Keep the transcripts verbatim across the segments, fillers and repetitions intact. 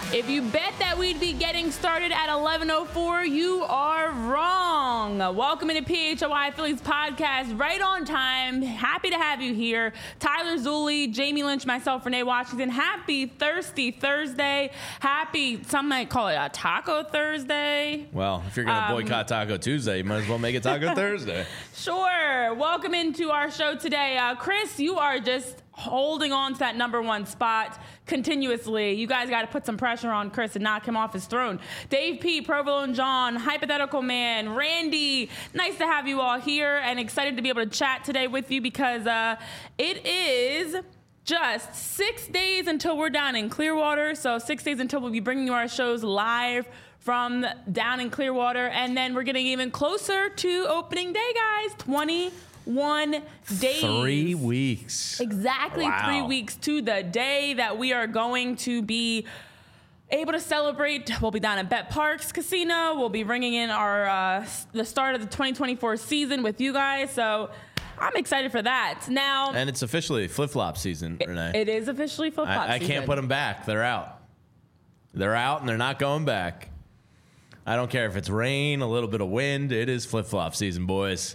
If you bet that we'd be getting started at eleven oh four, you are wrong. Welcome into P H O I Phillies podcast, right on time. Happy to have you here. Tyler Zulli, Jamie Lynch, myself, Renee Washington. Happy Thirsty Thursday. Happy, some might call it a Taco Thursday. Well, if you're going to Um, boycott Taco Tuesday, you might as well make it Taco Thursday. Sure. Welcome into our show today. Uh, Chris, you are just holding on to that number one spot continuously. You guys got to put some pressure on Chris and knock him off his throne. Dave P, Provolone John, Hypothetical Man, Randy, nice to have you all here and excited to be able to chat today with you because uh, it is just six days until we're down in Clearwater. So six days until we'll be bringing you our shows live from down in Clearwater. And then we're getting even closer to opening day, guys. twenty-one days. Three weeks. Exactly Wow. three weeks to the day that we are going to be able to celebrate. We'll be down at Bet Parks Casino. We'll be bringing in our uh, the start of the twenty twenty-four season with you guys. So I'm excited for that. Now, And it's officially flip-flop season, Renee. it is officially flip-flop I, I season. can't put them back. They're out. They're out, and they're not going back. I don't care if it's rain, a little bit of wind. It is flip-flop season, boys.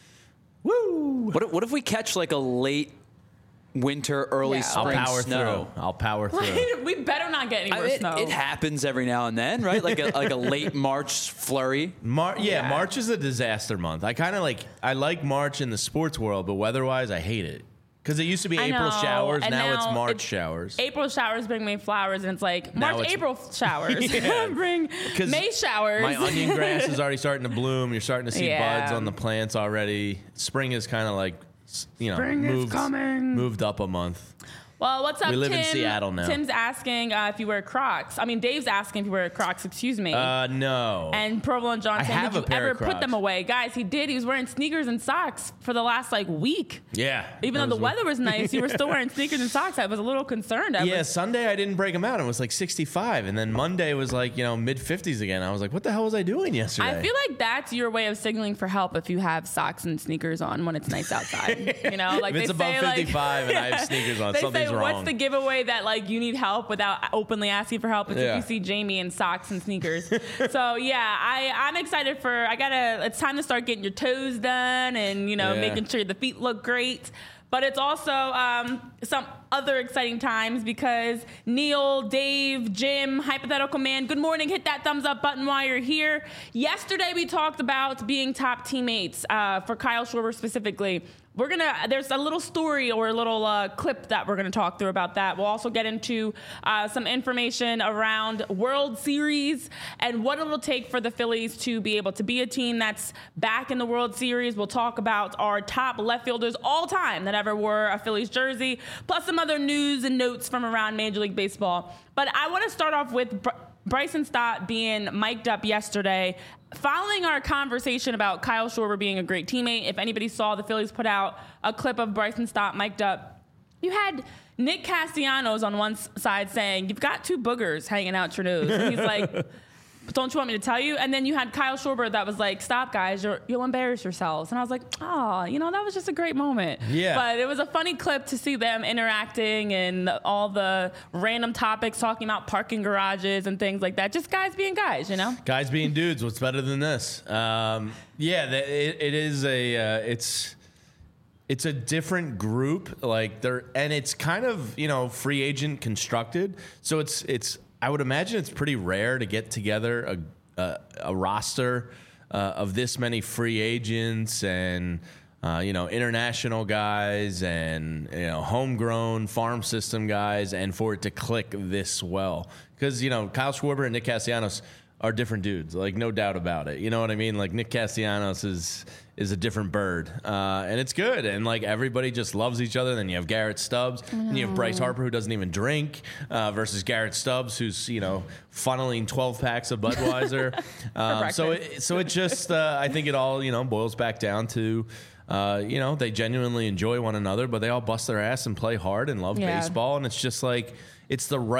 Woo! What if, what if we catch like a late winter, early Yeah. I'll spring power snow? through. I'll power through. We better not get any I- more it, snow. it happens every now and then, right? Like a like a late March flurry. Mar- yeah, Yeah. March is a disaster month. I kind of like, I like March in the sports world, but weather-wise, I hate it. Because it used to be I April know, showers, and now, it's now March it's- showers. April showers bring me flowers, and it's like Now March, it's- April showers Yeah. bring 'Cause May showers. My onion grass is already starting to bloom. You're starting to see Yeah. buds on the plants already. Spring is kind of like, s- you know, Spring is moved, coming. moved up a month. Well, what's up, We live Tim? in Seattle now. Tim's asking uh, if you wear Crocs. I mean, Dave's asking if you wear Crocs. Excuse me. Uh, no. and Provolone John I saying, have did a you pair ever of put Crocs. them away? Guys, he did. He was wearing sneakers and socks for the last, like, week. yeah. Even that though the was- weather was nice, you were still wearing sneakers and socks. I was a little concerned. I Yeah, was, Sunday I didn't break them out. It was like sixty-five. And then Monday was like, you know, mid fifties again. I was like, what the hell was I doing yesterday? I feel like that's your way of signaling for help if you have socks and sneakers on when it's nice outside. You know, like If it's they above say, like, fifty-five and I have sneakers on, they something's say, wrong. what's the giveaway that like you need help without openly asking for help? It's Yeah. if you see Jamie in socks and sneakers. So yeah, I I'm excited for. I gotta. It's time to start getting your toes done and you know Yeah. making sure the feet look great. But it's also um, some other exciting times because Neil, Dave, Jim, Hypothetical Man, good morning. Hit that thumbs up button while you're here. Yesterday we talked about being top teammates uh, for Kyle Schwarber specifically. We're going to, there's a little story or a little uh, clip that we're going to talk through about that. We'll also get into uh, some information around World Series and what it'll take for the Phillies to be able to be a team that's back in the World Series. We'll talk about our top left fielders all time that ever wore a Phillies jersey, plus some other news and notes from around Major League Baseball. But I want to start off with Br- Bryson Stott being mic'd up yesterday. Following our conversation about Kyle Schwarber being a great teammate, if anybody saw, the Phillies put out a clip of Bryson Stott mic'd up. You had Nick Castellanos on one s- side saying, you've got two boogers hanging out your nose. And he's like, don't you want me to tell you? And then you had Kyle Schwarber that was like, stop, guys, you're, you'll embarrass yourselves. And I was like, oh, you know, that was just a great moment. Yeah. But it was a funny clip to see them interacting and all the random topics, talking about parking garages and things like that. Just guys being guys, you know? Guys being dudes, what's better than this? Um, yeah, the, it, it is a, uh, it's, it's a different group, like they're, and it's kind of, you know, free agent constructed. So it's, it's, I would imagine it's pretty rare to get together a, a, a roster uh, of this many free agents and, uh, you know, international guys and, you know, homegrown farm system guys, and for it to click this well. Because, you know, Kyle Schwarber and Nick Castellanos are different dudes, like no doubt about it. You know what I mean? Like Nick Castellanos is is a different bird, uh, and it's good. And like everybody just loves each other. Then you have Garrett Stubbs, and you have Bryce Harper, who doesn't even drink, uh, versus Garrett Stubbs, who's you know funneling twelve packs of Budweiser. um, so it, so it just uh, I think it all you know boils back down to. Uh, you know, they genuinely enjoy one another, but they all bust their ass and play hard and love Yeah. baseball. And it's just like, it's the right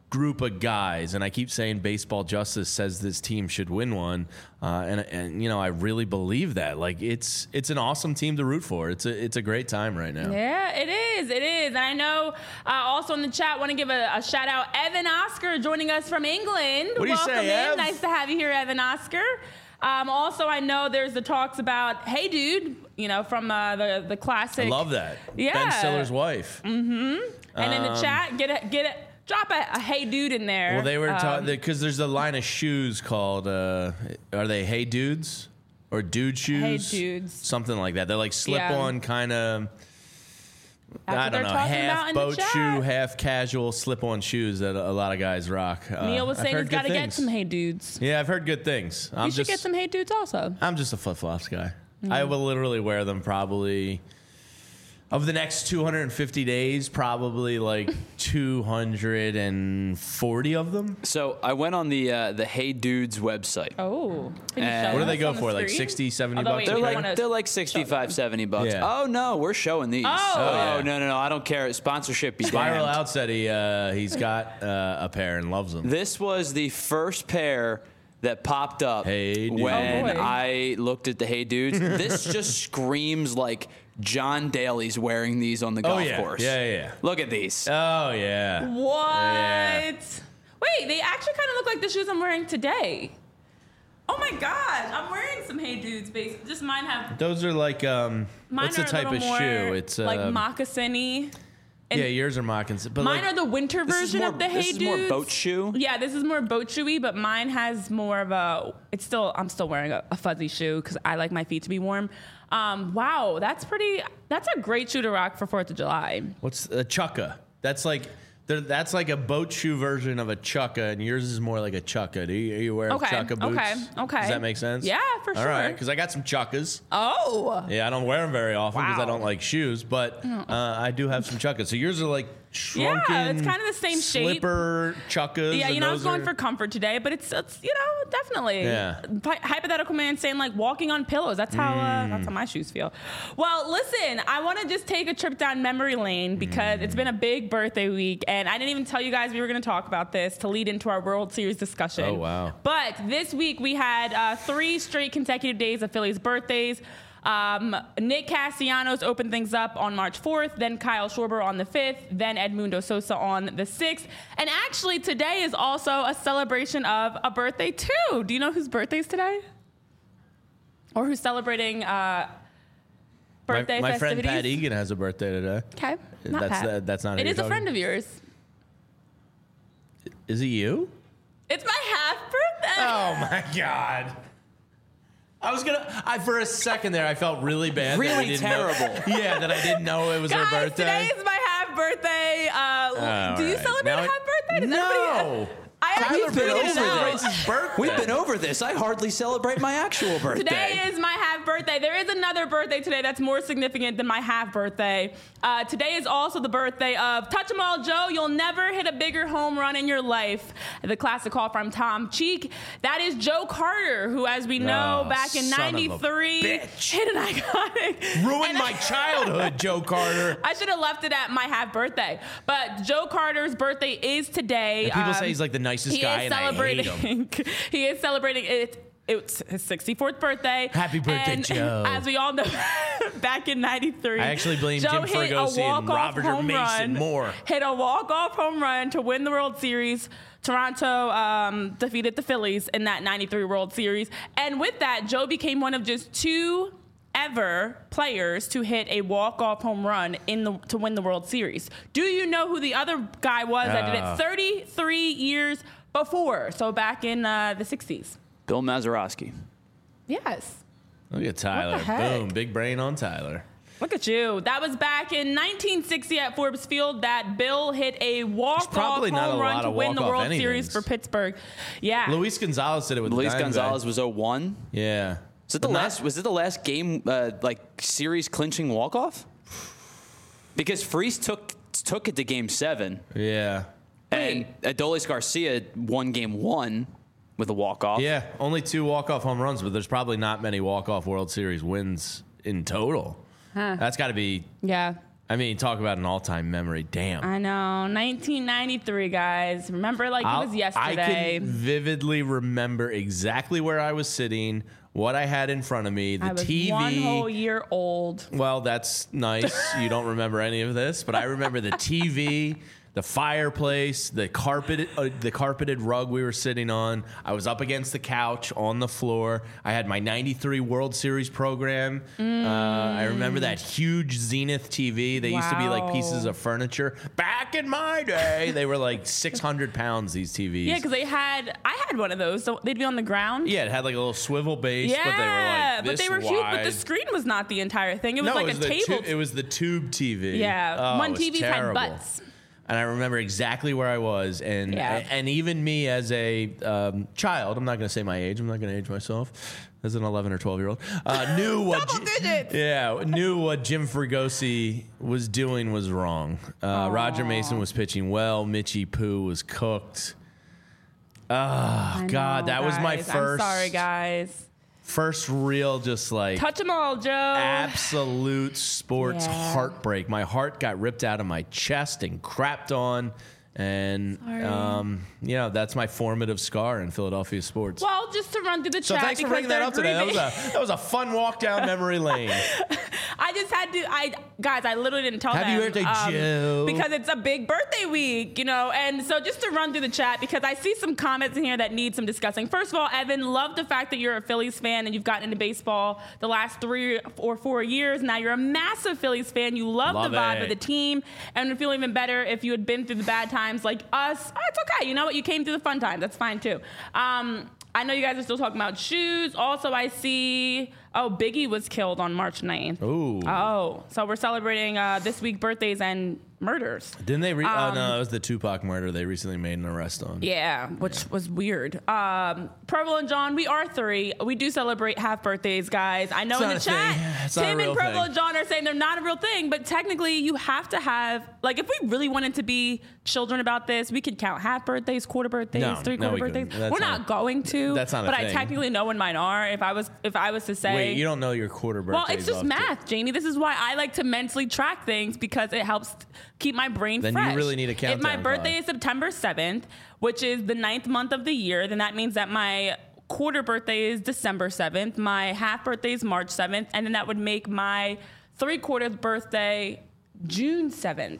group of guys, and I keep saying baseball justice says this team should win one, uh, and and you know I really believe that. Like it's it's an awesome team to root for. It's a it's a great time right now. Yeah, it is. It is. And I know uh, also in the chat, want to give a, a shout out, Evan Oscar joining us from England. What do you Welcome say, in. Ev? Nice to have you here, Evan Oscar. Um, also, I know there's the talks about Hey Dude, you know, from uh, the the classic. I love that. Yeah. Ben Stiller's wife. Mm-hmm. And in the Um, chat, get it, get it. Drop a, a Hey Dude in there. Well, they were Um, talking because there's a line of shoes called uh, are they Hey Dudes or Dude Shoes? Hey Dudes. Something like that. They're like slip Yeah. on kind of. That's I what they're don't know, talking about half in the boat chat. shoe, half casual slip-on shoes that a lot of guys rock. Uh, Neil was I've saying heard he's got to good get things. some Hey Dudes. Yeah, I've heard good things. I'm You should just, get some Hey Dudes also. I'm just a flip-flops guy. Mm-hmm. I will literally wear them probably of the next two hundred fifty days, probably like two hundred forty of them. So I went on the uh, the Hey Dudes website. Oh. Can you And- show What do they us go on the for? Like screen? sixty, seventy Although, bucks? wait, They're we a don't pair? wanna- like they're like sixty-five, seventy bucks. Yeah. Oh no, we're showing these. Oh. Oh, yeah. no, no, no, I don't care. Sponsorship be Spiral damned. Out said he uh, he's got uh, a pair and loves them. This was the first pair that popped up Hey Dude. when Oh, boy. I looked at the Hey Dudes. This just screams like John Daly's wearing these on the golf Oh yeah, course. yeah, yeah, yeah. Look at these. Oh yeah. What? Yeah. Wait, they actually kind of look like the shoes I'm wearing today. Oh my gosh, I'm wearing some Hey Dudes. Base. Just mine have. Those are like um. Mine what's the are a type of little more shoe? It's uh, like moccasin-y. And yeah, yours are moccasins. But mine like, are the winter This is version more- of the this Hey is Dudes. more boat shoe? Yeah, this is more boat shoey, but mine has more of a. It's still. I'm still wearing a, a fuzzy shoe because I like my feet to be warm. Um, wow, that's pretty. That's a great shoe to rock for Fourth of July. what's a chukka? That's like. There- That's like a boat shoe version of a chukka, and yours is more like a chukka. Do you, are you wearing Okay, chukka boots? okay, okay. Does that make sense? Yeah, for All sure. right, because I got some chukkas. Oh. Yeah, I don't wear them very often because I Wow. don't like shoes, but uh, I do have some chukkas. So yours are like shrunken. Yeah, it's kind of the same shape. Slipper chukkas. Yeah, and you know, I was those going are- for comfort today, but it's, it's you know, definitely. Yeah. Hy- hypothetical man saying like walking on pillows. That's how uh, Mm. that's how my shoes feel. Well, listen, I want to just take a trip down memory lane because it's been a big birthday week, and I didn't even tell you guys we were going to talk about this to lead into our World Series discussion. Oh, wow. But this week we had uh, three straight consecutive days of Phillies' birthdays. Um, Nick Castellanos opened things up on March fourth, then Kyle Schwarber on the fifth, then Edmundo Sosa on the sixth. And actually, today is also a celebration of a birthday, too. Do you know whose birthday is today? Or who's celebrating uh, My, birthday my friend festivities? Pat Egan has a birthday today. Okay, not That's- Pat. that- that's not who It you're is a talking- friend of yours. Is it you? It's my half birthday. Oh my god. I was gonna. I for a second there, I felt really bad. that I Really didn't know- terrible. yeah, that I didn't know it was Guys, her birthday. today is my half birthday. Uh, All do you right. celebrate Now a it- half birthday? Does No. everybody- I actually Tyler been figured over it this. out. his birthday. We've been over this. I hardly celebrate my actual birthday. Today is my half birthday. There is another birthday today that's more significant than my half birthday. Uh, today is also the birthday of Touch 'em All Joe. You'll never hit a bigger home run in your life. The classic call from Tom Cheek. That is Joe Carter, who, as we know, Oh, back in son of a ninety-three, bitch. hit an iconic. ruined and my I- childhood, Joe Carter. I should have left it at my half birthday. But Joe Carter's birthday is today. And people Um, say he's like the nicest he guy, is and I hate him. celebrating. he is celebrating it. It's his sixty-fourth birthday. Happy birthday, and Joe. As we all know, back in ninety-three, I actually blame Joe Jim hit a Fregosi and walk-off Robert home Mason run, more. Hit a walk-off home run to win the World Series. Toronto um, defeated the Phillies in that ninety-three World Series. And with that, Joe became one of just two ever players to hit a walk-off home run in the to win the World Series. Do you know who the other guy was that did Uh. it thirty-three years before? So back in uh, the sixties. Bill Mazeroski. Yes. Look at Tyler. heck? Boom. Big brain on Tyler. Look at you. That was back in nineteen sixty at Forbes Field that Bill hit a walk-off probably not home a run lot to of win the walk-off World Series anythings. for Pittsburgh. Yeah. Luis Gonzalez did it with Luis the Diamondbacks. Gonzalez was oh one. Yeah. Was it the But not- last? Was it the last game? Uh, like series clinching walk off? Because Freese took took it to game seven, Yeah. and Adolis Garcia won game one with a walk off. Yeah. Only two walk-off home runs, but there's probably not many walk-off World Series wins in total. That's got to be Yeah. I mean, talk about an all-time memory. Damn. I know. nineteen ninety-three, guys. Remember like I'll- it was yesterday. I can vividly remember exactly where I was sitting, what I had in front of me, the I was T V. one whole year old. Well, that's nice. You don't remember any of this, but I remember the T V, the fireplace, the carpeted, uh, the carpeted rug we were sitting on. I was up against the couch on the floor. I had my ninety-three World Series program. Mm. Uh, I remember that huge Zenith T V. They used to be like Wow. pieces of furniture. Back in my day, they were like six hundred pounds, these T Vs. Yeah, because they had, I had one of those. So they'd be on the ground. Yeah, it had like a little swivel base, Yeah, but they were like this but they were huge. But wide. the screen was not the entire thing. It was no, like it was a the table. tu- it was the tube T V. Yeah, Oh, one it was T V had terrible. butts. And I remember exactly where I was, and Yeah. and even me as a um, child, I'm not going to say my age. I'm not going to age myself as an eleven or twelve year old. Uh, knew what Double Ji- digits. Yeah, knew what Jim Fregosi was doing was wrong. Uh, Roger Mason was pitching well. Mitchie Poo was cooked. Oh I God, know, that was my guys. first I'm sorry, guys. first real just like Touch them all, Joe. absolute sports Yeah. heartbreak. My heart got ripped out of my chest and crapped on. And, Sorry. um, yeah, that's my formative scar in Philadelphia sports. Well, just to run through the so chat. thanks for because bringing that they're up today. That was, grieving. a, that was a fun walk down memory lane. I just had to, I guys, I literally didn't tell Happy them. birthday, Joe. Because it's a big birthday week, you know. And so just to run through the chat, because I see some comments in here that need some discussing. First of all, Evan, love the fact that you're a Phillies fan and you've gotten into baseball the last three or four years. Now you're a massive Phillies fan. You love, Love the vibe it. of the team and would feel even better if you had been through the bad times like us. Oh, it's okay. You know what? You came through the fun times. That's fine too. Um, I know you guys are still talking about shoes. Also, I see, oh, Biggie was killed on March ninth. Ooh. Oh, so we're celebrating uh, this week birthdays and murders. Didn't they? Re- Um, oh, no, it was the Tupac murder they recently made an arrest on. Yeah, which was weird. Um, Purple and John, we are three. We do celebrate half birthdays, guys. I know It's in not the a chat, thing. It's not a Tim and real Purple thing. and John are saying they're not a real thing, but technically you have to have, like, if we really wanted to be children about this, we could count half birthdays, quarter birthdays, No, three no, quarter we couldn't. birthdays. That's We're not- not, going to. that's not a But I thing. technically know when mine are. If I was, if I was to say, Wait, you don't know your quarter birthdays well, it's just off to- math, Jamie. This is why I like to mentally track things because it helps keep my brain Then you fresh. really need a If my countdown birthday clock. is September seventh, which is the ninth month of the year, then that means that my quarter birthday is December seventh, my half birthday is March seventh, and then that would make my three quarters birthday June seventh.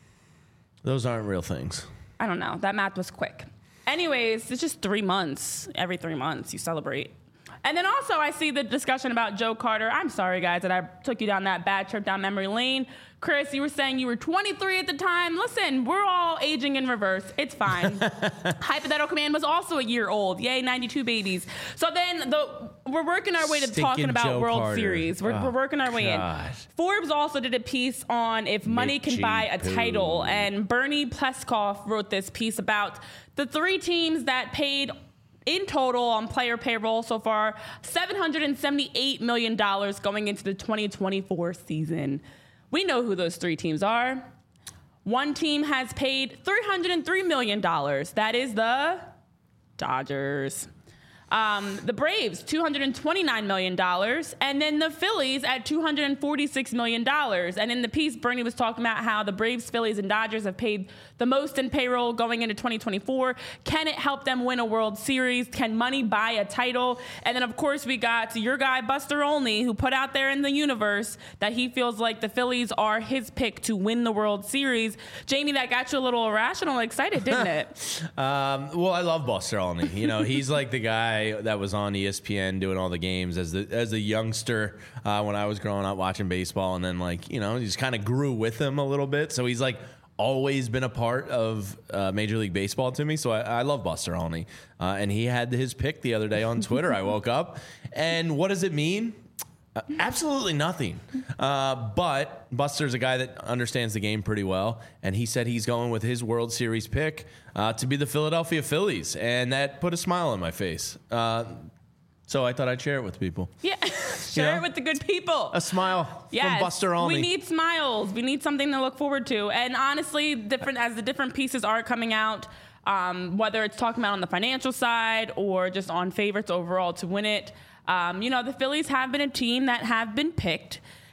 Those aren't real things. I don't know. That math was quick. Anyways, it's just three months. Every three months you celebrate. And then also I see the discussion about Joe Carter. I'm sorry, guys, that I took you down that bad trip down memory lane. Chris, you were saying you were twenty-three at the time. Listen, we're all aging in reverse. It's fine. Hypothetical Man was also a year old. Yay, ninety-two babies. So then the we're working our way to Stinking talking about Joe World Carter. Series. We're, Oh, we're working our way God. in. Forbes also did a piece on if money can Mitchie buy a Poo. title, and Bernie Pleskoff wrote this piece about the three teams that paid in total on player payroll so far seven hundred seventy-eight million dollars going into the twenty twenty-four season. We know who those three teams are. One team has paid three hundred three million dollars. That is the Dodgers. Um, the Braves, two hundred twenty-nine million dollars, and then the Phillies at two hundred forty-six million dollars. And in the piece, Bernie was talking about how the Braves, Phillies, and Dodgers have paid the most in payroll going into twenty twenty-four. Can it help them win a World Series? Can money buy a title? And then, of course, we got your guy, Buster Olney, who put out there in the universe that he feels like the Phillies are his pick to win the World Series. Jamie, that got you a little irrational excited, didn't it? Um, well, I love Buster Olney. You know, he's like the guy that was on E S P N doing all the games as the as a youngster uh, when I was growing up watching baseball, and then like you know, he just kind of grew with him a little bit. So he's like always been a part of uh, Major League Baseball to me. So I, I love Buster Olney, uh, and he had his pick the other day on Twitter. I woke up, and what does it mean? Uh, absolutely nothing. Uh, but Buster's a guy that understands the game pretty well, and he said he's going with his World Series pick uh, to be the Philadelphia Phillies, and that put a smile on my face. Uh, so I thought I'd share it with people. Yeah, share know? it with the good people. A smile Yes, from Buster Olney. we need smiles. We need something to look forward to. And honestly, different as the different pieces are coming out, um, whether it's talking about on the financial side or just on favorites overall to win it, um, you know, the Phillies have been a team that have been picked.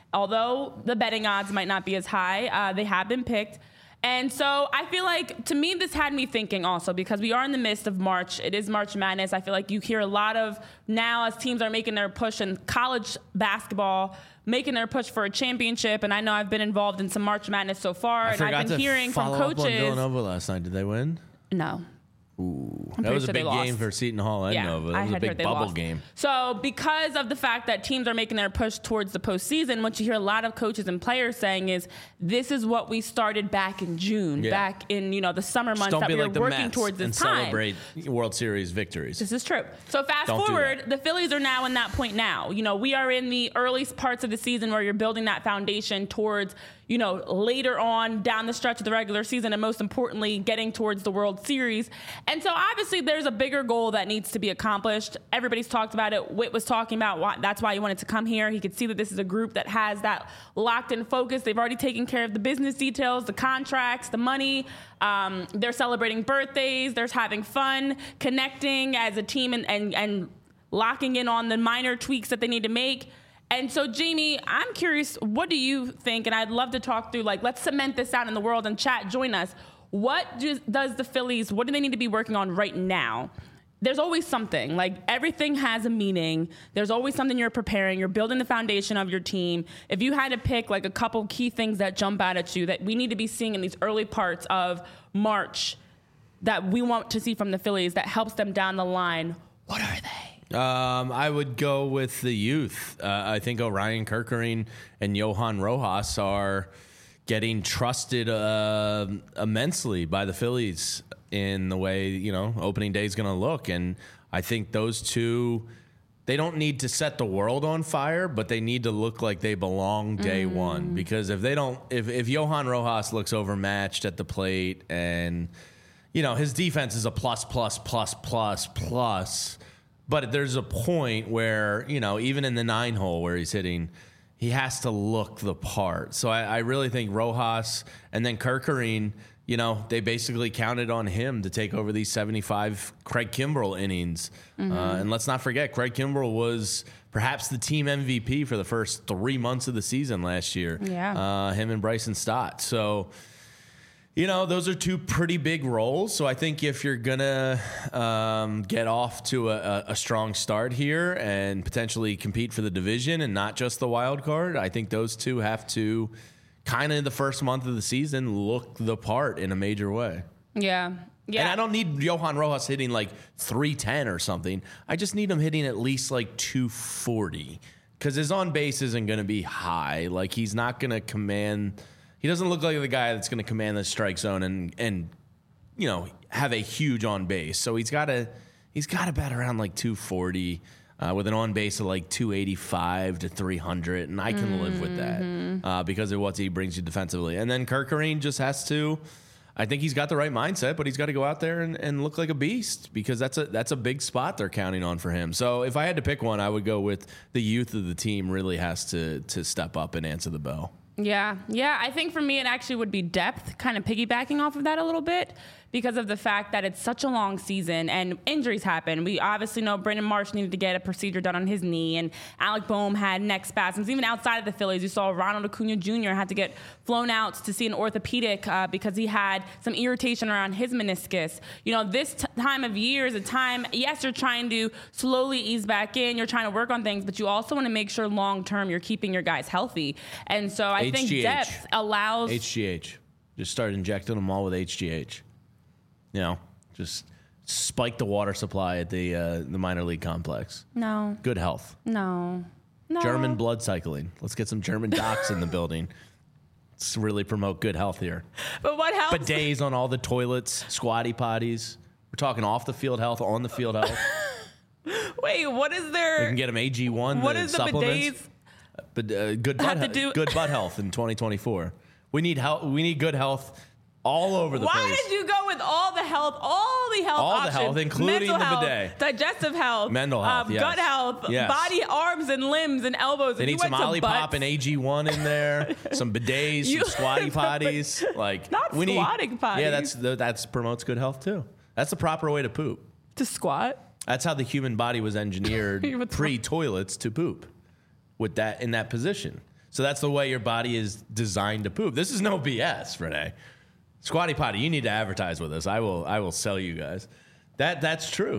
Although the betting odds might not be as high, uh, they have been picked. And so I feel like, to me, this had me thinking also, because we are in the midst of March. It is March Madness. I feel like you hear a lot of, now as teams are making their push in college basketball, making their push for a championship. And I know I've been involved in some March Madness so far. I and I've been hearing from follow coaches. Up on Villanova last night. Did they win? No. Ooh, I'm that was a sure big they lost. game for Seton Hall and Yeah, Nova. That I was a had big heard they bubble lost. game. So because of the fact that teams are making their push towards the postseason, what you hear a lot of coaches and players saying is, this is what we started back in June, Yeah. back in, you know, the summer Just months don't that be we were like the working Mets towards this and time. celebrate World Series victories. This is true. So fast Don't do forward, that. the Phillies are now in that point now. You know, we are in the early parts of the season where you're building that foundation towards, you know, later on down the stretch of the regular season, and most importantly, getting towards the World Series. And so obviously there's a bigger goal that needs to be accomplished. Everybody's talked about it. Whit was talking about why, that's why he wanted to come here. He could see that this is a group that has that locked in focus. They've already taken care of the business details, the contracts, the money. Um, they're celebrating birthdays. They're having fun, connecting as a team, and, and, and locking in on the minor tweaks that they need to make. And so, Jamie, I'm curious, what do you think? And I'd love to talk through, like, let's cement this out in the world, and chat, join us. What do, does the Phillies, what do they need to be working on right now? There's always something. Like, everything has a meaning. There's always something you're preparing. You're building the foundation of your team. If you had to pick, like, a couple key things that jump out at you that we need to be seeing in these early parts of March that we want to see from the Phillies that helps them down the line, what are they? Um, I would go with the youth. Uh, I think Orion Kerkering and Johan Rojas are getting trusted uh, immensely by the Phillies in the way, you know, opening day is going to look. And I think those two, they don't need to set the world on fire, but they need to look like they belong day mm. one. Because if they don't, if, if Johan Rojas looks overmatched at the plate and, you know, his defense is a plus, plus, plus, plus, plus, but there's a point where, you know, even in the nine hole where he's hitting, he has to look the part. So I, I really think Rojas and then Kerkering, you know, they basically counted on him to take over these seventy-five Craig Kimbrell innings. Mm-hmm. Uh, and let's not forget, Craig Kimbrell was perhaps the team M V P for the first three months of the season last year. Yeah. Uh, him and Bryson Stott. So, you know, those are two pretty big roles. So I think if you're going to um, get off to a, a strong start here and potentially compete for the division and not just the wild card, I think those two have to kind of in the first month of the season look the part in a major way. Yeah. Yeah. And I don't need Johan Rojas hitting like three ten or something. I just need him hitting at least like two forty because his on base isn't going to be high. Like he's not going to command... He doesn't look like the guy that's going to command the strike zone and, and you know, have a huge on base. So he's got to he's got to bat around like two forty uh, with an on base of like two eighty-five to three hundred, and I can mm-hmm. live with that uh, because of what he brings you defensively. And then Kerkering just has to. I think he's got the right mindset, but he's got to go out there and, and look like a beast because that's a that's a big spot they're counting on for him. So if I had to pick one, I would go with the youth of the team really has to to step up and answer the bell. Yeah, yeah. I think for me, it actually would be depth, kind of piggybacking off of that a little bit because of the fact that it's such a long season and injuries happen. We obviously know Brandon Marsh needed to get a procedure done on his knee, and Alec Boehm had neck spasms. Even outside of the Phillies, you saw Ronald Acuna Junior had to get flown out to see an orthopedic uh, because he had some irritation around his meniscus. You know, this t- time of year is a time, yes, you're trying to slowly ease back in, you're trying to work on things, but you also want to make sure long-term you're keeping your guys healthy. And so I H G H. think depth allows... H G H. Just start injecting them all with H G H. You know, just spike the water supply at the uh, the minor league complex. No. Good health. No. No. German blood cycling. Let's get some German docs in the building. Let's really promote good health here. But what helps? Bidets on all the toilets, squatty potties. We're talking off the field health, on the field health. Wait, what is there? We can get them A G one. What the is the supplements. bidets? But uh, good butt, Have to he- do- good butt health in twenty twenty-four. We need health. We need good health all over the Why place. did you go with all the health, all the health All the options? health, including Mental the health, bidet. digestive health, Mental health, um, yes. gut health, Yes. body, arms, and limbs, and elbows. They If need you some went to Olipop butts- and A G one in there, some bidets, You- some squatty potties. Like Not we squatting need, potties. Yeah, that's that's promotes good health too. That's the proper way to poop. to squat. That's how the human body was engineered What's pre toilets to poop, with that in that position. So that's the way your body is designed to poop. This is no B S, Renee. Squatty Potty, you need to advertise with us. I will I will sell you guys. That That's true.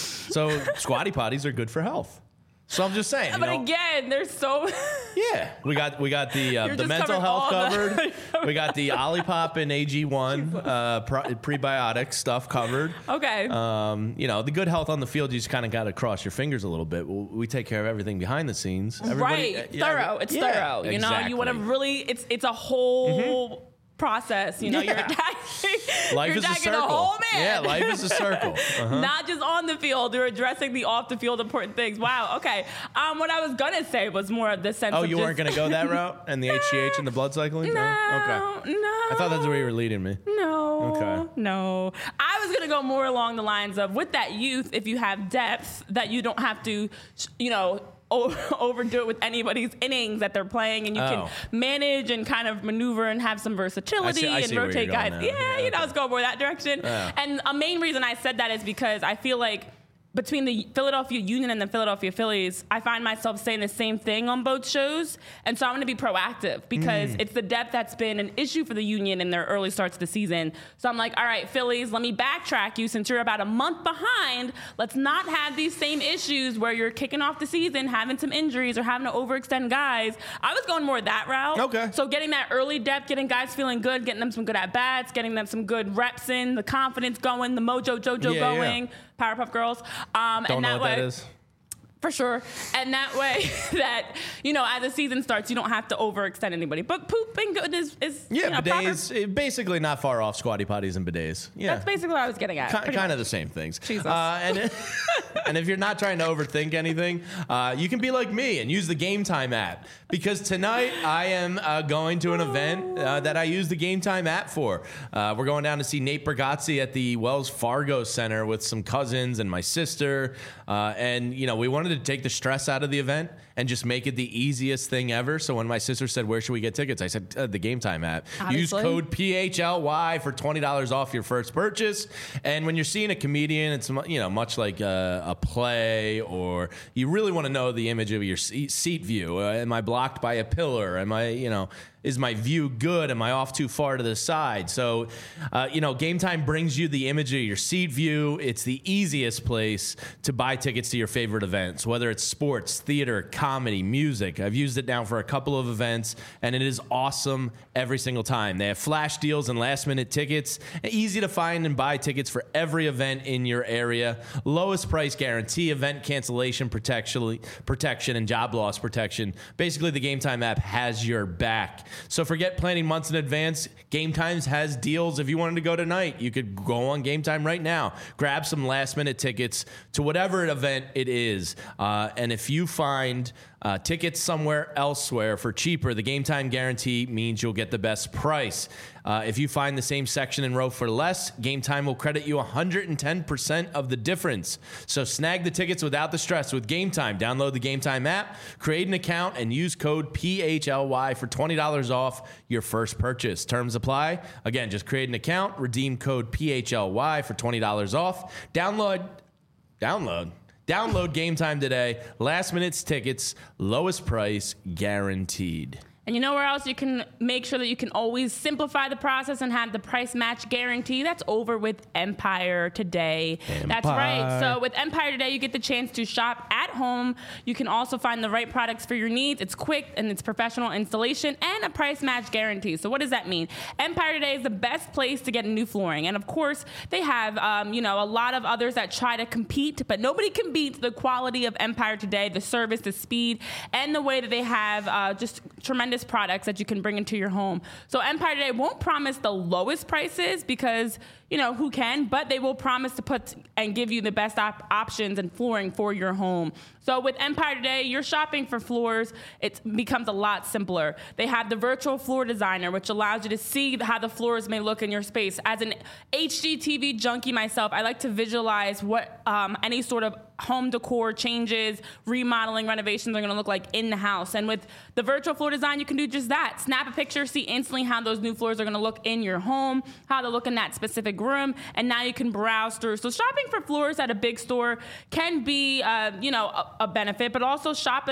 So Squatty Potties are good for health. So I'm just saying. But you know, again, there's so. yeah, we got we got the uh, You're the just mental covering health all covered. the- We got the Olipop and A G one uh, pro- prebiotic stuff covered. Okay. Um, you know, the good health on the field, you just kind of got to cross your fingers a little bit. We we take care of everything behind the scenes. Everybody- right. uh, yeah, thorough. It's yeah, thorough. You know, you want to exactly. really. It's it's a whole. Process, you know, Yeah. you're attacking, Life you're is a attacking circle. the whole man. Yeah, life is a circle. Uh-huh. Not just on the field, you're addressing the off the field important things. Wow, okay. Um, what I was gonna say was more of the sense Oh, of you just, weren't going to go that route? And the H G H and the blood cycling? No, Okay. no. I thought that's where you were leading me. No. Okay. No. I was going to go more along the lines of with that youth, if you have depth, that you don't have to, you know, o- overdo it with anybody's innings that they're playing, and you Oh. can manage and kind of maneuver and have some versatility I see- I and see where rotate you're going guys. now. Yeah, Yeah, you know, okay. let's go more that direction. Yeah. And a main reason I said that is because I feel like between the Philadelphia Union and the Philadelphia Phillies, I find myself saying the same thing on both shows. And so I'm going to be proactive because Mm. it's the depth that's been an issue for the Union in their early starts of the season. So I'm like, all right, Phillies, let me backtrack you since you're about a month behind. Let's not have these same issues where you're kicking off the season, having some injuries or having to overextend guys. I was going more that route. Okay. So getting that early depth, getting guys feeling good, getting them some good at-bats, getting them some good reps in, the confidence going, the mojo jojo Yeah, going. yeah. Powerpuff Girls. Um, Don't and know that what way, that is. For sure. And that way that, you know, as the season starts, you don't have to overextend anybody. But poop and good is, is Yeah, you know, proper- bidets, eh, basically not far off Squatty Potties and bidets. Yeah. That's basically what I was getting at. Ki- pretty kind much. of the same things. Jesus. Uh, and, and if you're not trying to overthink anything, uh, you can be like me and use the Game Time app. Because tonight I am uh, going to an event uh, that I use the Game Time app for. Uh, we're going down to see Nate Bargatze at the Wells Fargo Center with some cousins and my sister. Uh, and, you know, we wanted to take the stress out of the event and just make it the easiest thing ever. So when my sister said, where should we get tickets? I said, uh, the Game Time app. Obviously. Use code P H L Y for twenty dollars off your first purchase. And when you're seeing a comedian, it's mu- you know much like a, a play, or you really want to know the image of your seat, seat view. Uh, am I blocked by a pillar? Am I, you know, is my view good? Am I off too far to the side? So, uh, you know, Game Time brings you the image of your seat view. It's the easiest place to buy tickets to your favorite events, whether it's sports, theater, comedy, music. I've used it now for a couple of events, and it is awesome every single time. They have flash deals and last minute tickets, easy to find and buy tickets for every event in your area. Lowest price guarantee, event cancellation protection, protection and job loss protection. Basically, the Game Time app has your back. So forget planning months in advance. Game Times has deals. If you wanted to go tonight, you could go on Game Time right now. Grab some last minute tickets to whatever event it is. Uh, and if you find uh, tickets somewhere elsewhere for cheaper, the Game Time guarantee means you'll get the best price. Uh, if you find the same section and row for less, Game Time will credit you one hundred ten percent of the difference. So snag the tickets without the stress with Game Time. Download the Game Time app, create an account, and use code P H L Y for twenty dollars off your first purchase. Terms apply. Again, just create an account, redeem code P H L Y for twenty dollars off. Download, download. Download Game Time today. Last minute tickets, lowest price guaranteed. And you know where else you can make sure that you can always simplify the process and have the price match guarantee? That's over with Empire Today. That's right. Empire. So with Empire Today, you get the chance to shop at home. You can also find the right products for your needs. It's quick and it's professional installation and a price match guarantee. So what does that mean? Empire Today is the best place to get new flooring. And of course, they have, um, you know, a lot of others that try to compete, but nobody can beat the quality of Empire Today, the service, the speed, and the way that they have uh, just tremendous products that you can bring into your home. So Empire Today won't promise the lowest prices because, you know, who can, but they will promise to put and give you the best op- options and flooring for your home. So with Empire Today, you're shopping for floors. It becomes a lot simpler. They have the virtual floor designer, which allows you to see how the floors may look in your space. As an H G T V junkie myself, I like to visualize what um, any sort of home decor changes, remodeling, renovations are going to look like in the house. And with the virtual floor design, you can do just that. Snap a picture, see instantly how those new floors are going to look in your home, how they look in that specific room, and now you can browse through. So shopping for floors at a big store can be, uh, you know, a, a benefit, but also shopping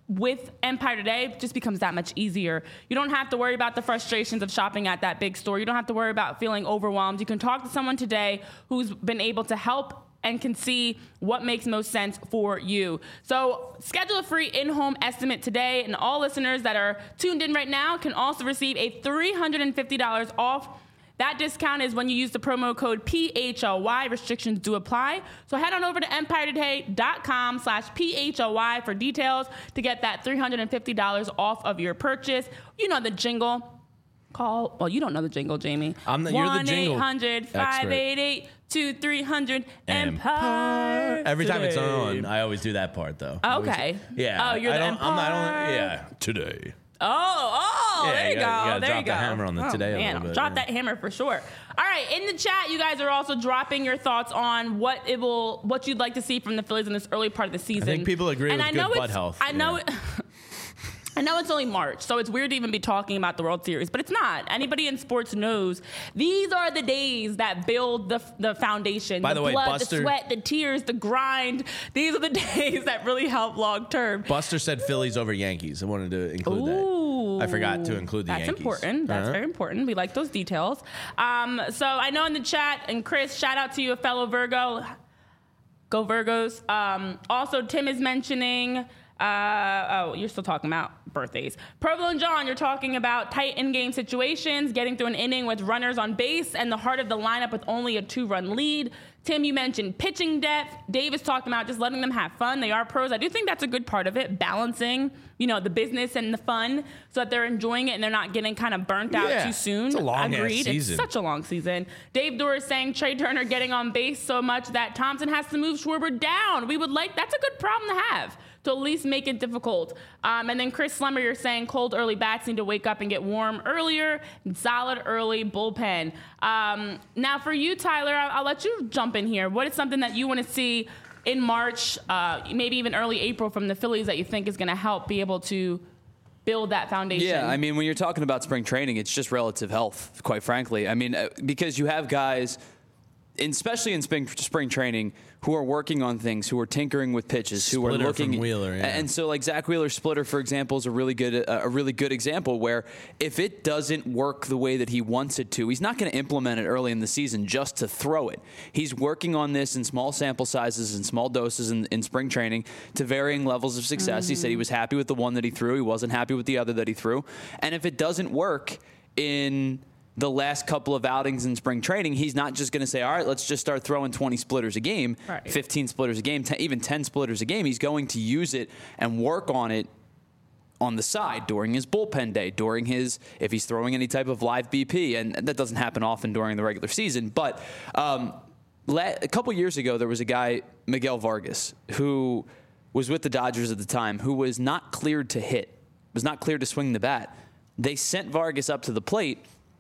with Empire Today, it just becomes that much easier. You don't have to worry about the frustrations of shopping at that big store. You don't have to worry about feeling overwhelmed. You can talk to someone today who's been able to help and can see what makes most sense for you. So schedule a free in-home estimate today, and all listeners that are tuned in right now can also receive a three hundred fifty dollars off. That discount is when you use the promo code P H L Y. Restrictions do apply. So head on over to empire today dot com slash P H L Y for details to get that three hundred fifty dollars off of your purchase. You know the jingle. Call, well, you don't know the jingle, Jamie. I'm the, you're the jingle one eight hundred, five eight eight, two three hundred, Empire. Every time it's Today. on, I always do that part, though. Okay. Yeah. Oh, you're I the don't, I'm not Empire. on, yeah. Today. Oh, oh, Yeah, there you, you go. gotta- you gotta there drop you go. the hammer on the oh, today a man, little bit, drop yeah. that hammer for sure. All right, in the chat, you guys are also dropping your thoughts on what it will, what you'd like to see from the Phillies in this early part of the season. I think people agree and with I good know butt it's, health. I know. Yeah. It, I know it's only March, so it's weird to even be talking about the World Series, but it's not. Anybody in sports knows these are the days that build the the foundation. By the way, blood, Buster- the sweat, the tears, the grind. These are the days that really help long term. Buster said Phillies over Yankees. I wanted to include Ooh. that. I forgot to include the That's Yankees. important. That's Uh-huh. very important. We like those details. Um, so I know in the chat, and Chris, shout out to you, a fellow Virgo. Go Virgos. Um, also, Tim is mentioning. Uh, oh, you're still talking about birthdays. Provo and John, you're talking about tight in-game situations, getting through an inning with runners on base, and the heart of the lineup with only a two-run lead. Tim, you mentioned pitching depth. Dave is talking about just letting them have fun. They are pros. I do think that's a good part of it, balancing, you know, the business and the fun so that they're enjoying it and they're not getting kind of burnt out Yeah, too soon. it's a long-ass Agreed. season. It's such a long season. Dave Dorr is saying Trey Turner getting on base so much that Thompson has to move Schwarber down. We would like, that's a good problem to have, to at least make it difficult. Um, and then Chris Slemmer, you're saying cold early bats need to wake up and get warm earlier, and solid early bullpen. Um, now for you, Tyler, I'll, I'll let you jump in here. What is something that you want to see in March, uh, maybe even early April from the Phillies that you think is going to help be able to build that foundation? Yeah, I mean, when you're talking about spring training, it's just relative health, quite frankly. I mean, uh, because you have guys, especially in spring, spring training, who are working on things, who are tinkering with pitches, who Splitter are looking. from Wheeler, yeah. And so, like Zach Wheeler's splitter, for example, is a really good, uh, a really good example where if it doesn't work the way that he wants it to, he's not going to implement it early in the season just to throw it. He's working on this in small sample sizes and small doses in, in spring training to varying levels of success. Mm-hmm. He said he was happy with the one that he threw. He wasn't happy with the other that he threw. And if it doesn't work in the last couple of outings in spring training, he's not just going to say, all right, let's just start throwing twenty splitters a game, right. fifteen splitters a game, ten, even ten splitters a game. He's going to use it and work on it on the side during his bullpen day, during his, if he's throwing any type of live B P, and that doesn't happen often during the regular season. But um, la- a couple years ago, there was a guy, Miguel Vargas, who was with the Dodgers at the time, who was not cleared to hit, was not cleared to swing the bat. They sent Vargas up to the plate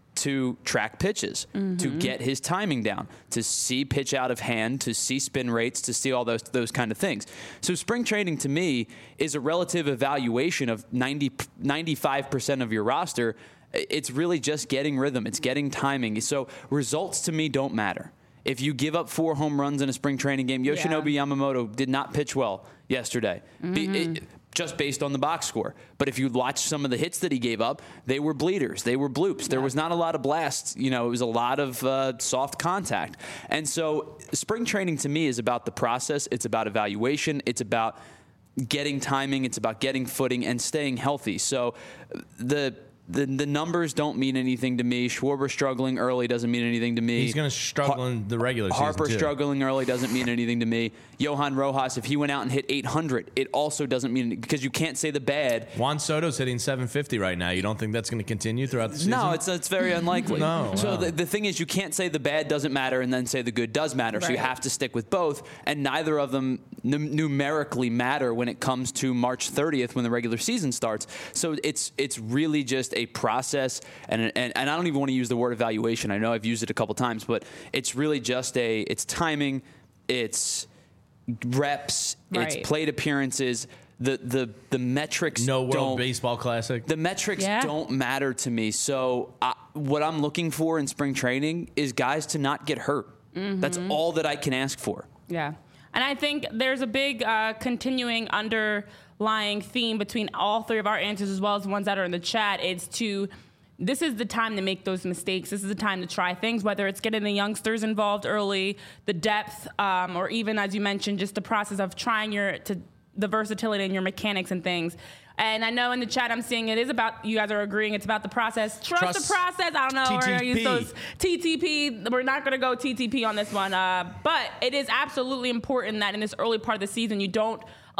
to track pitches, mm-hmm. to get his timing down, to see pitch out of hand, to see spin rates, to see all those those kind of things. So spring training to me is a relative evaluation of ninety, ninety-five percent of your roster. It's really just getting rhythm. It's getting timing. So results to me don't matter. If you give up four home runs in a spring training game, Yoshinobu yeah. Yamamoto did not pitch well yesterday. Mm-hmm. Be, it, just based on the box score. But if you watch some of the hits that he gave up, they were bleeders. They were bloops. There was not a lot of blasts. You know, it was a lot of uh, soft contact. And so spring training to me is about the process. It's about evaluation. It's about getting timing. It's about getting footing and staying healthy. So the The the numbers don't mean anything to me. Schwarber struggling early doesn't mean anything to me. He's going to struggle Har- in the regular season, Harper too. struggling early doesn't mean anything to me. Johan Rojas, if he went out and hit eight hundred, it also doesn't mean anything, because you can't say the bad. Juan Soto's hitting seven fifty right now. You don't think that's going to continue throughout the season? No, it's it's very unlikely. No, So wow. the, the thing is, you can't say the bad doesn't matter and then say the good does matter. So you Right. have to stick with both, and neither of them num- numerically matter when it comes to March thirtieth when the regular season starts. So it's it's really just a process, and and, and I don't even want to use the word evaluation. I know I've used it a couple times, but it's really just a it's timing, it's reps, Right. it's plate appearances. The the the metrics No World don't, Baseball Classic. the metrics Yeah. don't matter to me. So I, what I'm looking for in spring training is guys to not get hurt. Mm-hmm. That's all that I can ask for. Yeah. And I think there's a big uh, continuing under underlying theme between all three of our answers as well as the ones that are in the chat. It's to this is the time to make those mistakes. This is the time to try things, whether it's getting the youngsters involved early, the depth, um, or even, as you mentioned, just the process of trying your to the versatility in your mechanics and things. And I know in the chat I'm seeing it is about, you guys are agreeing it's about the process. Trust, Trust the process. I don't know. T T P. We're going to use those T T P. We're not going to go T T P on this one. Uh, but it is absolutely important that in this early part of the season, you don't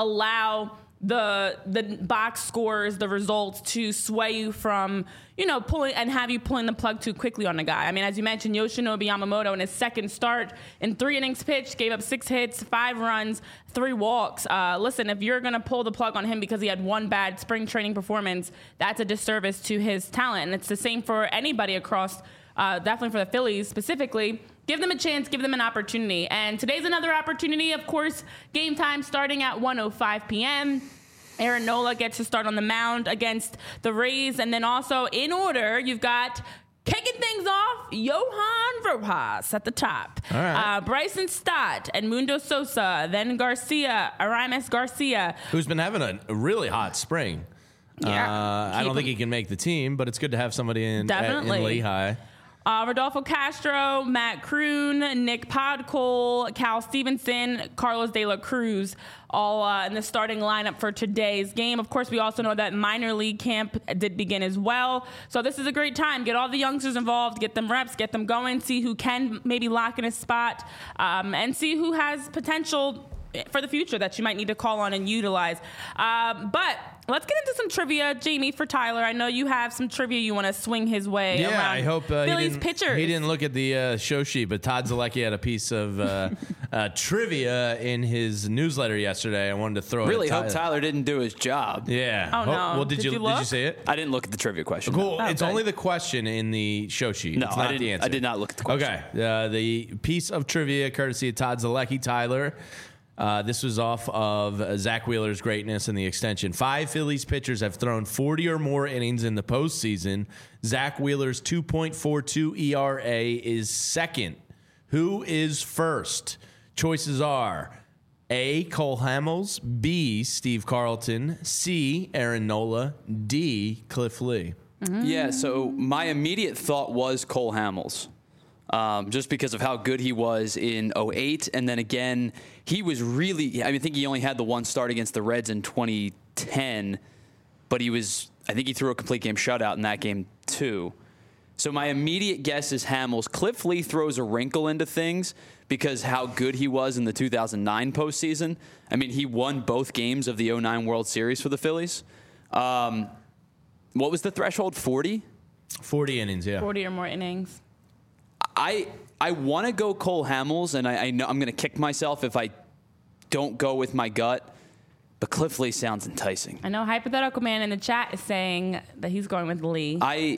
allow the the box scores, the results to sway you from, you know, pulling and have you pulling the plug too quickly on a guy. I mean, as you mentioned, Yoshinobu Yamamoto in his second start in three innings pitched, gave up six hits, five runs, three walks. Uh, listen, if you're going to pull the plug on him because he had one bad spring training performance, that's a disservice to his talent. And it's the same for anybody across, uh, definitely for the Phillies specifically. Give them a chance, give them an opportunity. And today's another opportunity, of course, game time starting at one oh five p.m. Aaron Nola gets to start on the mound against the Rays. And then also in order, you've got kicking things off, Johan Rojas at the top. All right. Uh, Bryson Stott, Edmundo Sosa, then Garcia, Aramis Garcia. Who's been having a, a really hot spring. Yeah. Uh, I don't think he can make the team, but it's good to have somebody in, Definitely. in Lehigh. Uh, Rodolfo Castro, Matt Kroon, Nick Podkol, Cal Stevenson, Carlos De La Cruz, all uh, in the starting lineup for today's game. Of course, we also know that minor league camp did begin as well. So this is a great time. Get all the youngsters involved, get them reps, get them going, see who can maybe lock in a spot, um, and see who has potential for the future that you might need to call on and utilize. Um, but let's get into some trivia, Jamie, for Tyler. I know you have some trivia you want to swing his way. Yeah, around I hope uh, Phillies he, didn't, pitchers. he didn't look at the uh, show sheet, but Todd Zalecki had a piece of uh, uh, trivia in his newsletter yesterday. I wanted to throw Really it at hope Tyler didn't do his job. Yeah. Oh, no. Well, did, Did you, you did look? you see it? I didn't look at the trivia question. Cool. Oh, it's okay. only the question in the show sheet. No, it's not I, didn't, the answer. I did not look at the question. Okay. Uh, the piece of trivia courtesy of Todd Zalecki, Tyler. Uh, this was off of uh, Zach Wheeler's greatness in the extension. Five Phillies pitchers have thrown forty or more innings in the postseason. Zach Wheeler's two point four two E R A is second. Who is first? Choices are A, Cole Hamels, B, Steve Carlton, C, Aaron Nola, D, Cliff Lee. Yeah, so my immediate thought was Cole Hamels. Um, just because of how good he was in oh eight. And then again, he was really, I mean, I think he only had the one start against the Reds in twenty ten, but he was, I think he threw a complete game shutout in that game too. So my immediate guess is Hamels. Cliff Lee throws a wrinkle into things because how good he was in the two thousand nine postseason. I mean, he won both games of the oh nine World Series for the Phillies. Um, what was the threshold, forty? forty innings, yeah. forty or more innings. I I want to go Cole Hamels, and I, I know I'm going to kick myself if I don't go with my gut. But Cliff Lee sounds enticing. I know Hypothetical Man in the chat is saying that he's going with Lee. I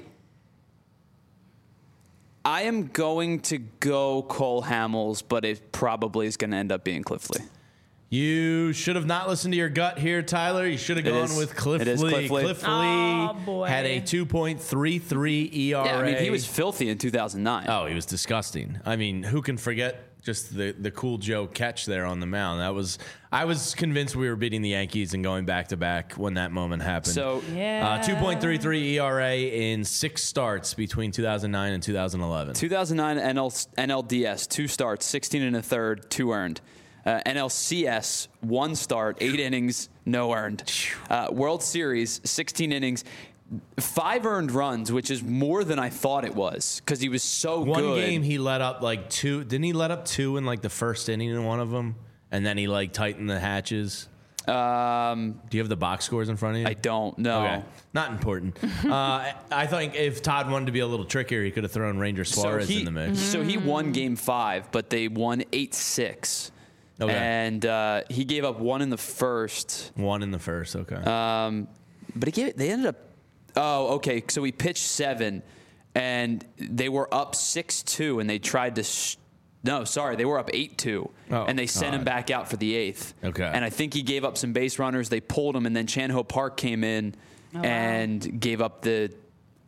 I am going to go Cole Hamels, but it probably is going to end up being Cliff Lee. You should have not listened to your gut here, Tyler. You should have gone is. with Cliff It is Lee. Cliff Lee. Cliff Lee Oh, boy. had a two point three three E R A. Yeah, I mean, he was filthy in two thousand nine. Oh, he was disgusting. I mean, who can forget just the, the cool Joe catch there on the mound? That was I was convinced we were beating the Yankees and going back to back when that moment happened. So, yeah. uh, two point three three E R A in six starts between two thousand nine and two thousand eleven. two thousand nine N L, N L D S, two starts, sixteen and a third, two earned. Uh, N L C S, one start, eight innings, no earned. Uh, World Series, sixteen innings, five earned runs, which is more than I thought it was because he was so One good. game he let up like two. Didn't he let up two in like the first inning in one of them? And then he like tightened the hatches. Um, Do you have the box scores in front of you? I don't know. Okay. Not important. uh, I think if Todd wanted to be a little trickier, he could have thrown Ranger Suarez so he, in the mix. So he won game five, but they won eight six. Okay. And uh, he gave up one in the first. One in the first. Okay. Um, but he gave, they ended up. Oh, okay. So he pitched seven, and they were up six two, and they tried to. Sh- no, sorry, they were up eight two, Oh, and they sent God. him back out for the eighth. Okay. And I think he gave up some base runners. They pulled him, and then Chan Ho Park came in Oh, wow. and gave up the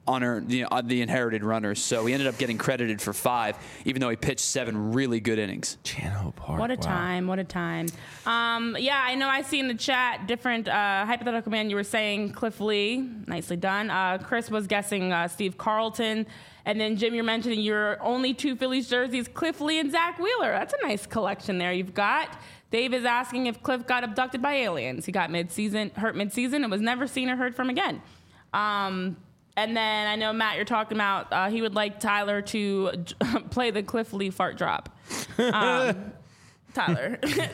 unearned, the, uh, the inherited runners. So he ended up getting credited for five, even though he pitched seven really good innings. Chan Ho Park. What a wow. time. What a time. Um, yeah, I know I see in the chat different uh, hypothetical man. You were saying Cliff Lee. Nicely done. Uh, Chris was guessing uh, Steve Carlton. And then, Jim, you're mentioning your only two Phillies jerseys, Cliff Lee and Zach Wheeler. That's a nice collection there you've got. Dave is asking if Cliff got abducted by aliens. He got mid-season, hurt mid-season and was never seen or heard from again. Um, and then I know, Matt, you're talking about uh, he would like Tyler to play the Cliff Lee fart drop. Um, Tyler.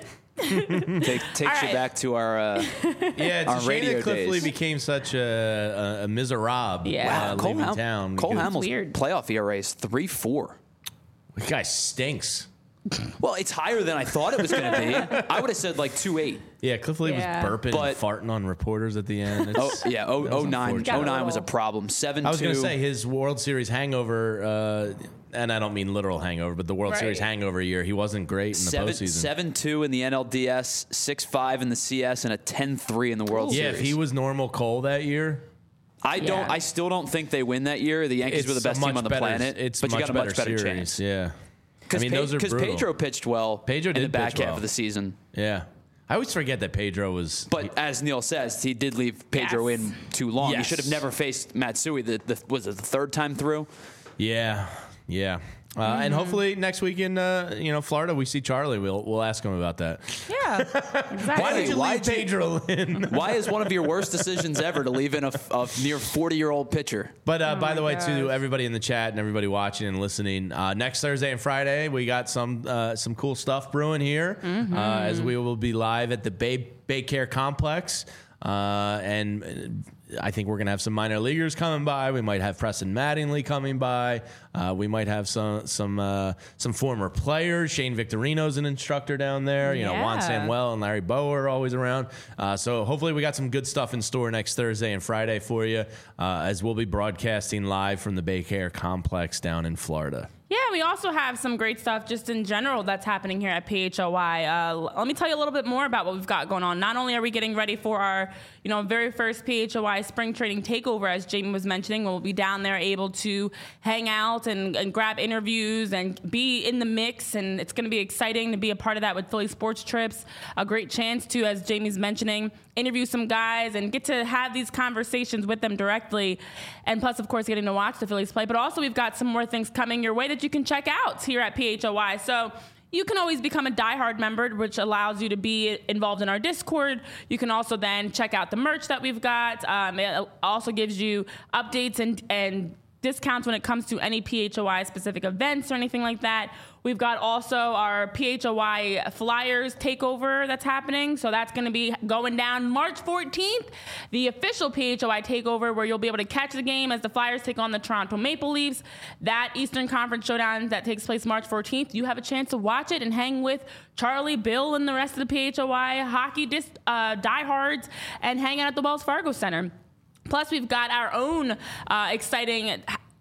Take, takes right. you back to our uh, Yeah, it's our a shame radio that Cliff Lee days. became such a, a, a miserable Yeah. uh, Cole, leaving Ham- town. Cole because Hamels' weird. playoff E R A is three four. The guy stinks. Well, it's higher than I thought it was going to be. I would have said like two eight. Yeah, Cliff Lee Yeah. was burping But- and farting on reporters at the end. It's, Oh yeah, oh, that was oh nine, unfortunate. oh nine was a little- problem. Seven two. I was going to say his World Series hangover, uh, and I don't mean literal hangover, but the World Right. Series hangover year, he wasn't great in the Seven, postseason. seven two in the N L D S, six five in the C S, and a ten three in the World yeah, Series. if he was normal Cole that year, I don't. Yeah. I still don't think they win that year. The Yankees it's were the best a much team on the better, planet. It's but much you got a much better series. chance. Yeah, I Because mean those are brutal. Pedro pitched well. Pedro in the did back pitch half well. of the season. Yeah, I always forget that Pedro was. But as Neil says, he did leave Pedro Yes. in too long. He Yes. should have never faced Matsui. The, the was it the third time through? Yeah, yeah. Uh, Mm-hmm. And hopefully next week in uh, you know Florida we see Charlie. We'll we'll ask him about that. Yeah, exactly. Why did you why leave did you- Pedro in? Why is one of your worst decisions ever to leave in a, a near forty year old pitcher? But uh, by my the way, gosh. to everybody in the chat and everybody watching and listening, uh, next Thursday and Friday we got some uh, some cool stuff brewing here, Mm-hmm. uh, as we will be live at the Bay Baycare Complex, uh, and I think we're gonna have some minor leaguers coming by. We might have Preston Mattingly coming by. Uh, we might have some some uh, some former players. Shane Victorino's an instructor down there. You know, Juan Yeah. Samuel and Larry Bowe are always around. Uh, so hopefully we got some good stuff in store next Thursday and Friday for you, uh, as we'll be broadcasting live from the Baycare Complex down in Florida. Yeah, we also have some great stuff just in general that's happening here at P H O Y. Uh, let me tell you a little bit more about what we've got going on. Not only are we getting ready for our, you know, very first P H O Y spring training takeover, as Jamie was mentioning, we'll be down there able to hang out and, and grab interviews and be in the mix, and it's going to be exciting to be a part of that with Philly Sports Trips. A great chance to, as Jamie's mentioning, interview some guys and get to have these conversations with them directly, and plus, of course, getting to watch the Phillies play. But also, we've got some more things coming your way that you can check out here at P H O Y. So you can always become a diehard member, which allows you to be involved in our Discord. You can also then check out the merch that we've got. Um, it also gives you updates and and discounts when it comes to any P H O Y specific events or anything like that. We've got also our P H O Y Flyers takeover that's happening. So that's going to be going down March fourteenth, the official P H O Y takeover, where you'll be able to catch the game as the Flyers take on the Toronto Maple Leafs. That Eastern Conference showdown that takes place March fourteenth, you have a chance to watch it and hang with Charlie, Bill, and the rest of the P H O Y hockey dis- uh, diehards and hang out at the Wells Fargo Center. Plus, we've got our own uh, exciting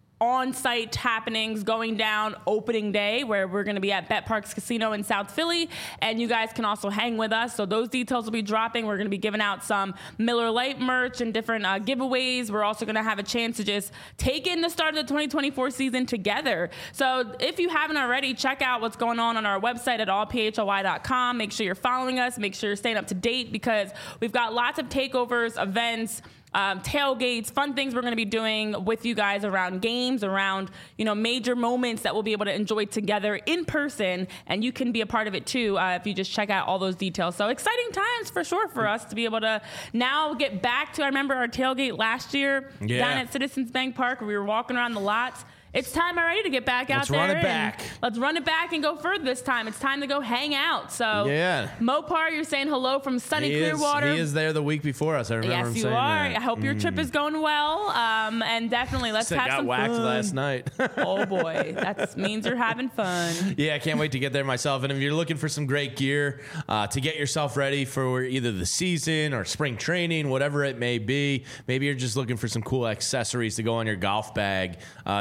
on-site happenings going down opening day, where we're going to be at Bet Parks Casino in South Philly, and you guys can also hang with us. So those details will be dropping. We're going to be giving out some Miller Lite merch and different uh, giveaways. We're also going to have a chance to just take in the start of the twenty twenty-four season together. So if you haven't already, check out what's going on on our website at all p h o y dot com. Make sure you're following us. Make sure you're staying up to date, because we've got lots of takeovers, events, Um, tailgates, fun things we're going to be doing with you guys around games, around, you know, major moments that we'll be able to enjoy together in person, and you can be a part of it too uh, if you just check out all those details. So exciting times for sure for us to be able to now get back to, I remember our tailgate last year Yeah. down at Citizens Bank Park, where we were walking around the lots. It's time already to get back out Let's there. run it and back. Let's run it back and go further this time. It's time to go hang out. So, Yeah. Mopar, you're saying hello from sunny He is, Clearwater. he is there the week before us. I remember Yes, him you saying are. that. I hope your trip is going well. Um, and definitely let's I have got some whacked fun. last night. Oh boy, that means you're having fun. Yeah, I can't wait to get there myself. And if you're looking for some great gear uh, to get yourself ready for either the season or spring training, whatever it may be, maybe you're just looking for some cool accessories to go on your golf bag. Uh, you need a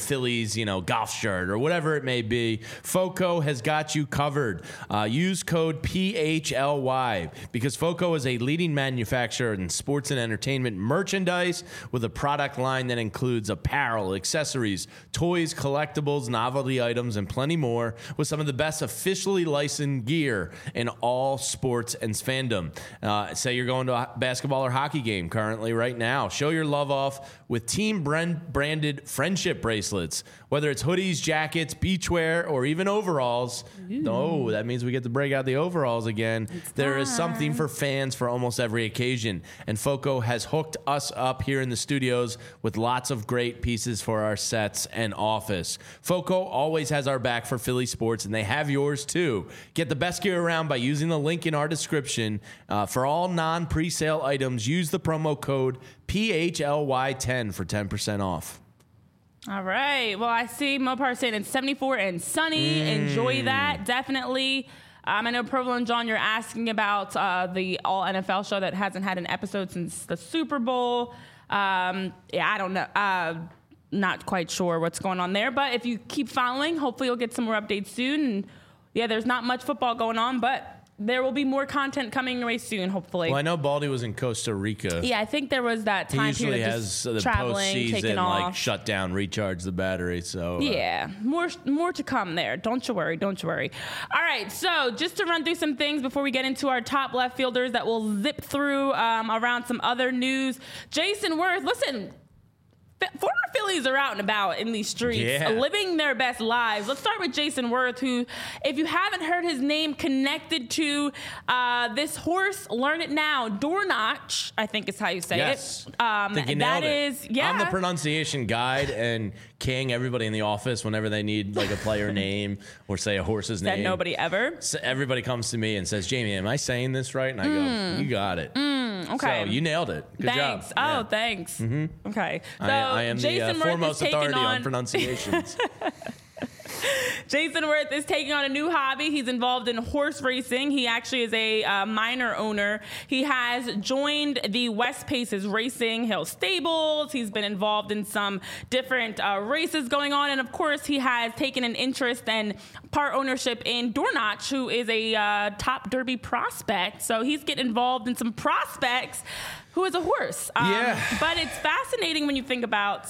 Phillies, you know, golf shirt or whatever it may be, FOCO has got you covered. Uh, use code P H L Y because FOCO is a leading manufacturer in sports and entertainment merchandise with a product line that includes apparel, accessories, toys, collectibles, novelty items, and plenty more with some of the best officially licensed gear in all sports and fandom. Uh, say you're going to a basketball or hockey game currently right now. Show your love off with team brand- branded friendship bracelets, whether it's hoodies, jackets, beachwear, or even overalls. Ooh. Oh, that means we get to break out the overalls again. It's there time. is something for fans for almost every occasion. And FOCO has hooked us up here in the studios with lots of great pieces for our sets and office. FOCO always has our back for Philly sports, and they have yours too. Get the best gear around by using the link in our description. Uh, for all non-presale items, use the promo code P H L Y ten for ten percent off. All right. Well, I see Mopar saying it's seventy-four and sunny. Mm. Enjoy that. Definitely. Um, I know Provo and John, you're asking about uh, the All N F L show that hasn't had an episode since the Super Bowl. Um, yeah, I don't know. Uh, not quite sure what's going on there. But if you keep following, hopefully you'll get some more updates soon. And yeah, there's not much football going on, but there will be more content coming away soon, hopefully. Well, I know Baldy was in Costa Rica. Yeah, I think there was that time he usually period of has just the traveling, postseason, taking like off. shut down, recharge the battery. So uh, yeah, more more to come there. Don't you worry. Don't you worry. All right, so just to run through some things before we get into our top left fielders that we'll zip through um, around some other news. Jason Worth, listen. Former Phillies are out and about in these streets, yeah. living their best lives. Let's start with Jason Worth, who, if you haven't heard his name connected to uh, this horse, learn it now. Dornach, I think is how you say yes. it. Um, I think you that nailed it. is, yeah. I'm the pronunciation guide and king everybody in the office whenever they need like a player name or say a horse's Said name. nobody ever. So everybody comes to me and says, Jamie, am I saying this right? And I Mm. go, you got it. Mm, okay. So you nailed it. Good thanks. job. Oh, Yeah. thanks. Mm-hmm. Okay. So I, I am Jason the uh, Worth foremost is taking authority on, on pronunciations. Jason Worth is taking on a new hobby. He's involved in horse racing. He actually is a uh, minor owner. He has joined the West Paces Racing Hill Stables. He's been involved in some different uh, races going on. And of course, he has taken an interest and part ownership in Dornach, who is a uh, top Derby prospect. So he's getting involved in some prospects who is a horse. Um, Yeah. But it's fascinating when you think about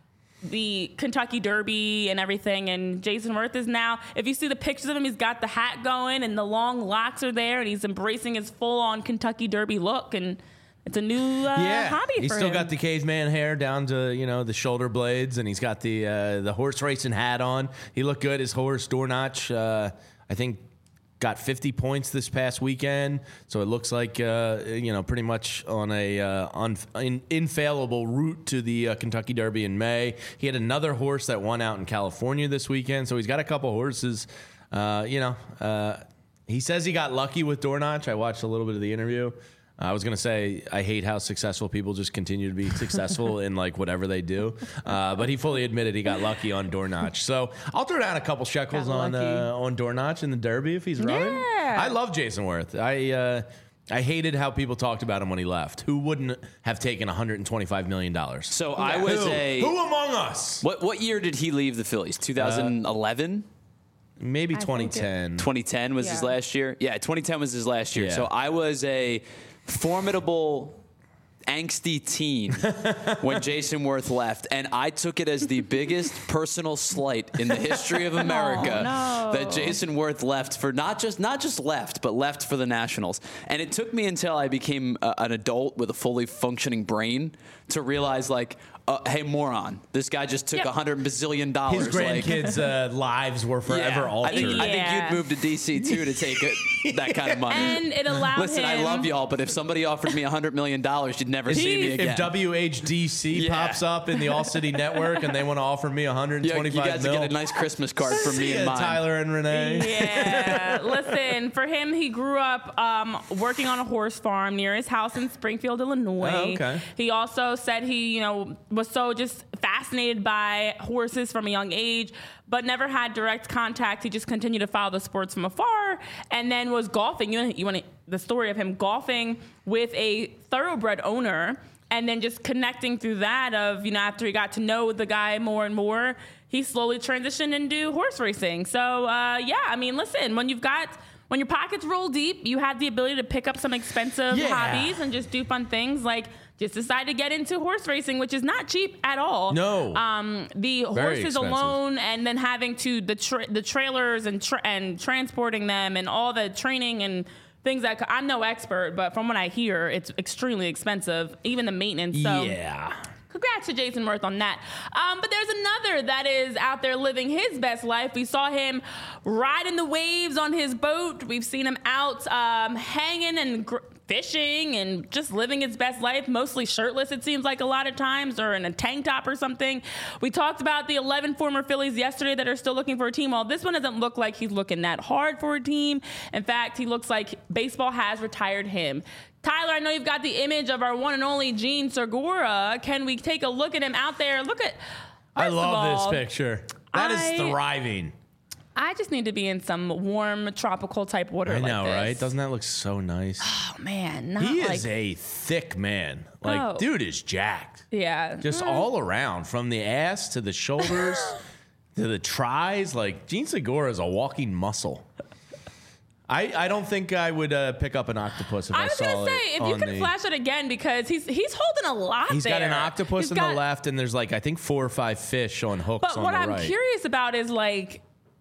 the Kentucky Derby and everything, and Jason Worth is now, if you see the pictures of him, he's got the hat going and the long locks are there and he's embracing his full-on Kentucky Derby look, and it's a new uh, yeah, hobby he's for still him. got the caveman hair down to, you know, the shoulder blades, and he's got the uh, the horse racing hat on. He looked good. His horse Dornach, uh, I think, got fifty points this past weekend, so it looks like uh, you know, pretty much on a uh, un- in- infallible route to the uh, Kentucky Derby in May. He had another horse that won out in California this weekend, so he's got a couple horses. Uh, you know, uh, he says he got lucky with Dornach. I watched a little bit of the interview. I was gonna say I hate how successful people just continue to be successful in like whatever they do, uh, but he fully admitted he got lucky on Dornach. So I'll throw down a couple shekels Got on uh, on Dornach in the Derby if he's running. Yeah. I love Jason Worth. I uh, I hated how people talked about him when he left. Who wouldn't have taken one hundred twenty-five million dollars? So I was who? a. Who among us? What what year did he leave the Phillies? twenty eleven? Maybe think it- twenty ten. twenty ten was his Yeah. last year. Yeah, twenty ten was his last year. Yeah. So I was a formidable, angsty teen when Jason Worth left, and I took it as the biggest personal slight in the history of America no. that Jason Worth left for not just not just left, but left for the Nationals. And it took me until I became a, an adult with a fully functioning brain to realize, like, uh, hey, moron, this guy just took a Yep. hundred bazillion dollars. His like- grandkids' uh, lives were forever yeah, altered. I think, I think Yeah. you'd move to D C too to take it, that kind of money. And it allowed Listen, him. I love y'all, but if somebody offered me a hundred million dollars, you'd never see me If again. If W H D C Yeah. pops up in the All City Network and they want to offer me one hundred yeah, you twenty-five guys mil, will get a nice Christmas card from me yeah, and mine. Tyler and Renee. Yeah, listen, for him, he grew up um, working on a horse farm near his house in Springfield, Illinois. Oh, okay. He also said he, you know, was so just fascinated by horses from a young age, but never had direct contact. He just continued to follow the sports from afar, and then was golfing. You, you want the story of him golfing with a thoroughbred owner, and then just connecting through that of, you know, after he got to know the guy more and more, he slowly transitioned into horse racing. So, uh, yeah, I mean, listen, when you've got, when your pockets roll deep, you have the ability to pick up some expensive Yeah. hobbies and just do fun things like just decide to get into horse racing, which is not cheap at all. No. Um, the Very horses expensive. alone, and then having to the tra- the trailers and tra- and transporting them and all the training and things that c- I'm no expert, but from what I hear, it's extremely expensive, even the maintenance. So Yeah. congrats to Jason Worth on that. Um, but there's another that is out there living his best life. We saw him riding the waves on his boat. We've seen him out um, hanging and gr- fishing and just living his best life, mostly shirtless, it seems like a lot of times, or in a tank top or something. We talked about the eleven former Phillies yesterday that are still looking for a team. Well, this one doesn't look like he's looking that hard for a team. In fact, he looks like baseball has retired him. Tyler, I know you've got the image of our one and only Gene Segura. Can we take a look at him out there? Look at. I first of love all, this picture. That is I- thriving. I just need to be in some warm tropical type water. I like know, this. right? Doesn't that look so nice? Oh man, not He like, is a thick man. Like, Oh. dude is jacked. yeah, Just Mm. all around, from the ass to the shoulders to the tries. Like, Gene Segura is a walking muscle. I, I don't think I would uh, pick up an octopus if I, I was saw gonna it say if you on can the- flash it again because he's he's holding a lot. He's got there. an octopus He's on got- the left, and there's like I think four or five fish on hooks But on what the I'm right. curious about is like,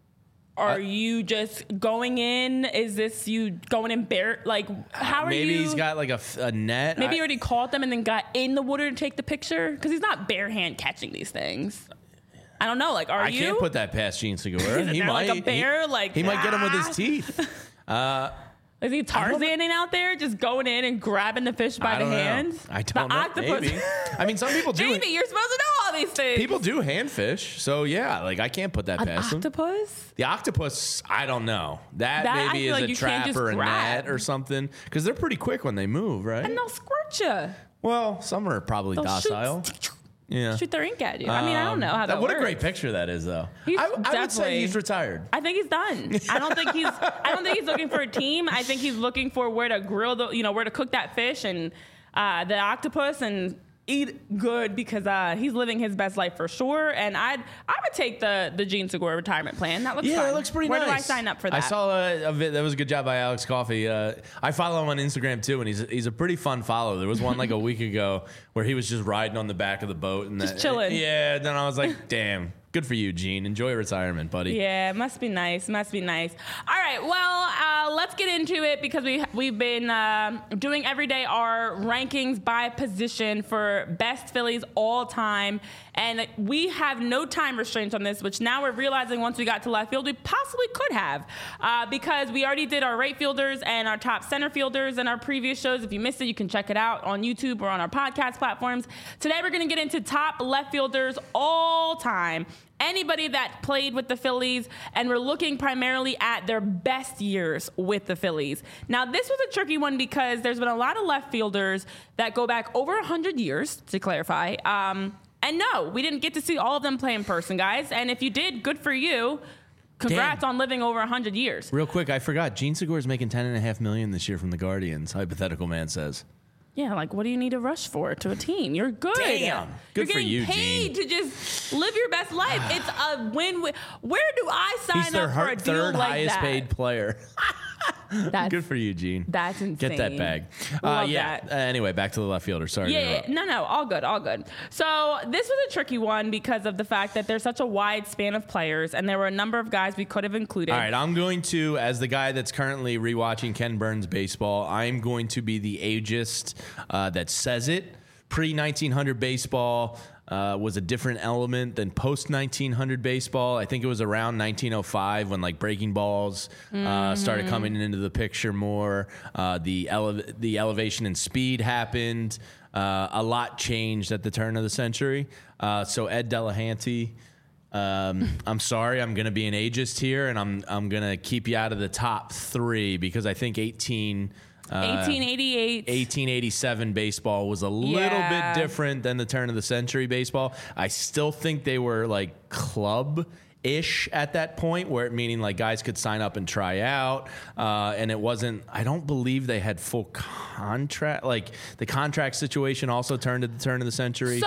are Uh, you just going in? Is this you going in bare? Like, how are Maybe you? he's got like a, f- a net. Maybe I- he already caught them and then got in the water to take the picture because he's not bare hand catching these things. I don't know. Like, are I you? can't put that past Gene Segura. Is he there might like a bear? He, like he might get him with ah? his teeth. Uh, Is he Tarzaning out there, just going in and grabbing the fish by I the don't know. hand? I don't the know. Octopus. Maybe. I mean, some people do. Maybe you're supposed to know all these things. People do hand fish, so yeah, like I can't put that An past them. octopus? The octopus, I don't know. That, That, I maybe feel is like a you can't trap just or a grab. net or something, because they're pretty quick when they move, right? And they'll squirt you. Well, some are probably They'll docile. shoot, Yeah. shoot their ink at you. I mean, I don't know how that, Um, What works. a great picture that is, though. He's I, I would say definitely- he's retired. I think he's done. I don't think he's. I don't think he's looking for a team. I think he's looking for where to grill the, you know, where to cook that fish and uh, the octopus and eat good because uh, he's living his best life for sure. And I'd, I would take the the Gene Segura retirement plan. That looks Yeah, fun. it looks pretty where nice. Where do I sign up for that? I saw a, a vid, that was a good job by Alex Coffey. Uh, I follow him on Instagram too, and he's he's a pretty fun follow. There was one like a week ago where he was just riding on the back of the boat and Just that, chilling. Yeah, then I was like, damn, good for you, Gene. Enjoy retirement, buddy. Yeah, it must be nice. Must be nice. All right, well, uh, let's get into it because we we've been uh, doing every day our rankings by position for best Phillies all time, and we have no time restraints on this, which now we're realizing once we got to left field we possibly could have, uh, because we already did our right fielders and our top center fielders in our previous shows. If you missed it, you can check it out on YouTube or on our podcast platforms. Today we're going to get into top left fielders all time. Anybody that played with the Phillies, and we're looking primarily at their best years with the Phillies. Now, this was a tricky one because there's been a lot of left fielders that go back over one hundred years, to clarify. Um, and no, we didn't get to see all of them play in person, guys. And if you did, good for you. Congrats Damn. on living over one hundred years. Real quick, I forgot. Gene Segura's making ten and a half million this year from the Guardians. Hypothetical man says. Yeah, like what do you need to rush for to a team? You're good. Damn. Good You're for getting you, paid to just live your best life. It's a win-win. Where do I sign He's their up for a her- deal third like highest that? paid player. That's, Good for you, Gene. That's insane. Get that bag. Uh, Love yeah. that. Uh, anyway, back to the left fielder. Sorry. to Yeah, interrupt. no, no, all good, all good. So this was a tricky one because of the fact that there's such a wide span of players, and there were a number of guys we could have included. All right, I'm going to, as the guy that's currently rewatching Ken Burns baseball, I'm going to be the ageist uh, that says it. Pre nineteen hundred baseball uh, was a different element than post nineteen hundred baseball. I think it was around nineteen oh five when like breaking balls uh, started coming into the picture more. Uh, the ele- the elevation and speed happened. Uh, a lot changed at the turn of the century. Uh, so Ed Delahanty. Um, I'm sorry, I'm going to be an ageist here, and I'm I'm going to keep you out of the top three because I think eighteen. Uh, eighteen eighty-eight. eighteen eighty-seven baseball was a little Yeah. bit different than the turn of the century baseball. I still think they were like club ish at that point, where meaning like guys could sign up and try out, uh, and it wasn't. I don't believe they had full contract. Like the contract situation also turned at the turn of the century. So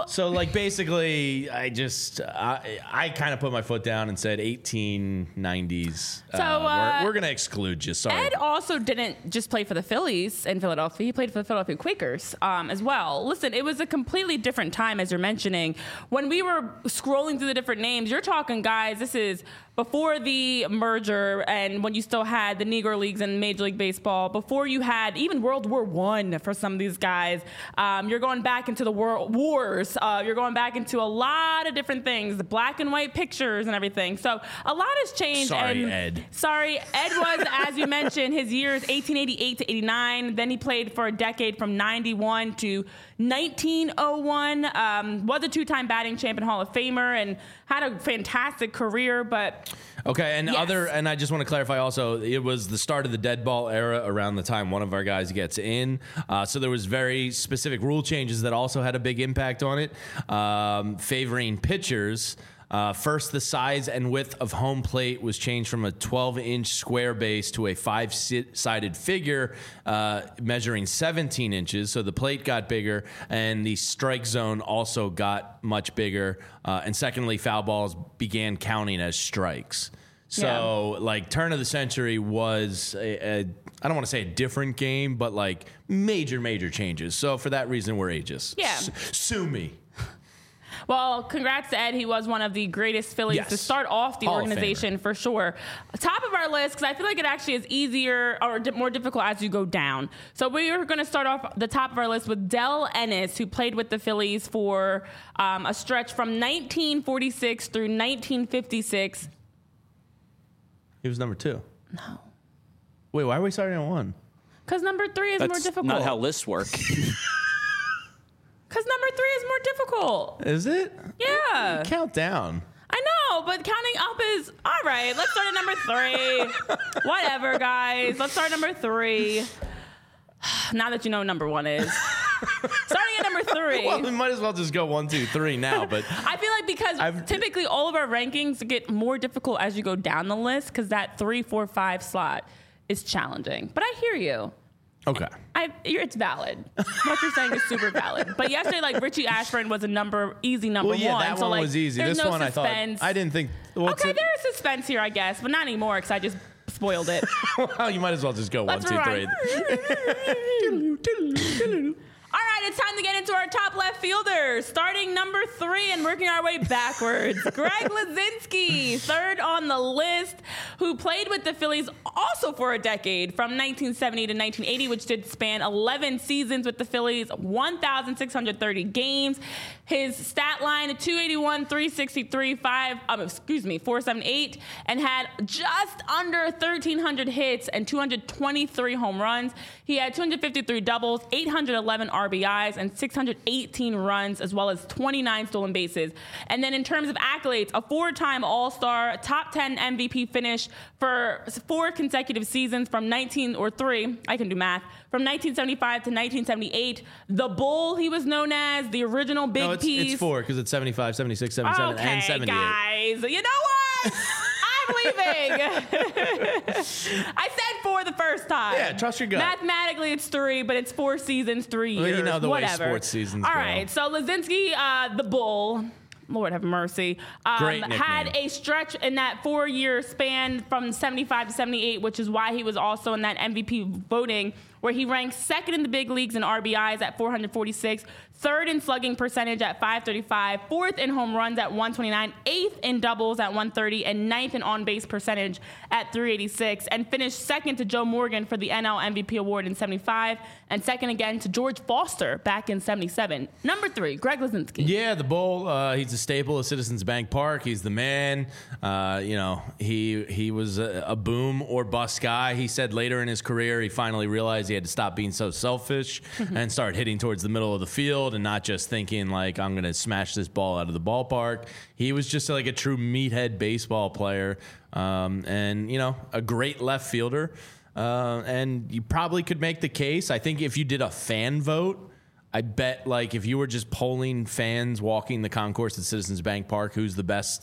So, like, basically, I just, I, I kind of put my foot down and said eighteen nineties. So, uh, uh, we're, we're going to exclude you. Sorry. Ed also didn't just play for the Phillies in Philadelphia. He played for the Philadelphia Quakers um, as well. Listen, it was a completely different time, as you're mentioning. When we were scrolling through the different names, you're talking, guys, this is before the merger and when you still had the Negro Leagues and Major League Baseball, before you had even World War One for some of these guys. Um, you're going back into the world wars. Uh, you're going back into a lot of different things, the black and white pictures and everything. So a lot has changed. Sorry, and Ed. Sorry, Ed was, as you mentioned, his years eighteen eighty-eight to eighty-nine. Then he played for a decade from ninety-one to nineteen oh one. Um, was a two-time batting champion, Hall of Famer, and had a fantastic career. But Okay, and Yes. other, and I just want to clarify also, it was the start of the dead ball era around the time one of our guys gets in. Uh, so there was very specific rule changes that also had a big impact on it, um, favoring pitchers. Uh, first, the size and width of home plate was changed from a twelve-inch square base to a five-sided figure uh, measuring seventeen inches. So the plate got bigger, and the strike zone also got much bigger. Uh, and secondly, foul balls began counting as strikes. So, Yeah. like, turn of the century was a, a I don't want to say a different game, but like major, major changes. So for that reason, we're ageist. Yeah. S- sue me. Well, congrats to Ed. He was one of the greatest Phillies Yes. to start off the Hall of organization for sure. Top of our list, because I feel like it actually is easier or di- more difficult as you go down. So we are going to start off the top of our list with Del Ennis, who played with the Phillies for um, a stretch from nineteen forty-six through nineteen fifty-six. He was number two. No. Wait, why are we starting at one? Because number three is That's more difficult. not how lists work. Because number three is more difficult. Is it? Yeah. Count down. I know, but counting up is all right. Let's start at number three. Whatever, guys. Let's start at number three. Now that you know what number one is. Starting at number three. Well, we might as well just go one, two, three now. But I feel like because I've- typically all of our rankings get more difficult as you go down the list because that three, four, five slot is challenging. But I hear you. okay. I, you're, it's valid. What you're saying is super valid. But yesterday, like Richie Ashburn was a number, easy number Well, yeah, one. that so one like, was easy. there's This no one suspense. I thought I didn't think. What's Okay, it? there is suspense here, I guess, but not anymore because I just spoiled it. Well, you might as well just go Let's one, two, rewind. three. All right, it's time to get into our top left fielders. Starting number three and working our way backwards. Greg Lazinski, third on the list, who played with the Phillies also for a decade from nineteen seventy to nineteen eighty, which did span eleven seasons with the Phillies, one thousand six hundred thirty games. His stat line, two eighty-one, three sixty-three, five, um, excuse me, four seventy-eight, and had just under thirteen hundred hits and two hundred twenty-three home runs. He had two hundred fifty-three doubles, eight hundred eleven R B Is, and six hundred eighteen runs, as well as twenty-nine stolen bases. And then in terms of accolades, a four-time All-Star, top ten M V P finish for four consecutive seasons from nineteen or three, I can do math, from nineteen seventy-five to nineteen seventy-eight. The Bull, he was known as, the original Big No, it's, Piece. it's four because it's seventy-five, seventy-six, seventy-seven, Okay, and seventy-eight. guys, you know what? I'm leaving. I said four the first time. Yeah, trust your gut. Mathematically, it's three, but it's four seasons, three Well, years. you know the way whatever. sports seasons All go. right, so Lazinski, uh, the Bull. Lord have mercy. Um, Great nickname. had a stretch in that four-year span from seventy-five to seventy-eight, which is why he was also in that M V P voting, where he ranked second in the big leagues in R B Is at four hundred forty-six, third in slugging percentage at five thirty-five, fourth in home runs at one twenty-nine, eighth in doubles at one thirty, and ninth in on-base percentage at three eighty-six, and finished second to Joe Morgan for the N L M V P award in seventy-five, and second again to George Foster back in seventy-seven. Number three, Greg Lazinski. Yeah, the Bull. Uh, he's a staple of Citizens Bank Park. He's the man. Uh, you know, he he was a, a boom or bust guy. He said later in his career, he finally realized he had to stop being so selfish and start hitting towards the middle of the field and not just thinking like, I'm going to smash this ball out of the ballpark. He was just like a true meathead baseball player, um, and you know, a great left fielder. Uh, and you probably could make the case. I think if you did a fan vote, I bet, like, if you were just polling fans walking the concourse at Citizens Bank Park, who's the best,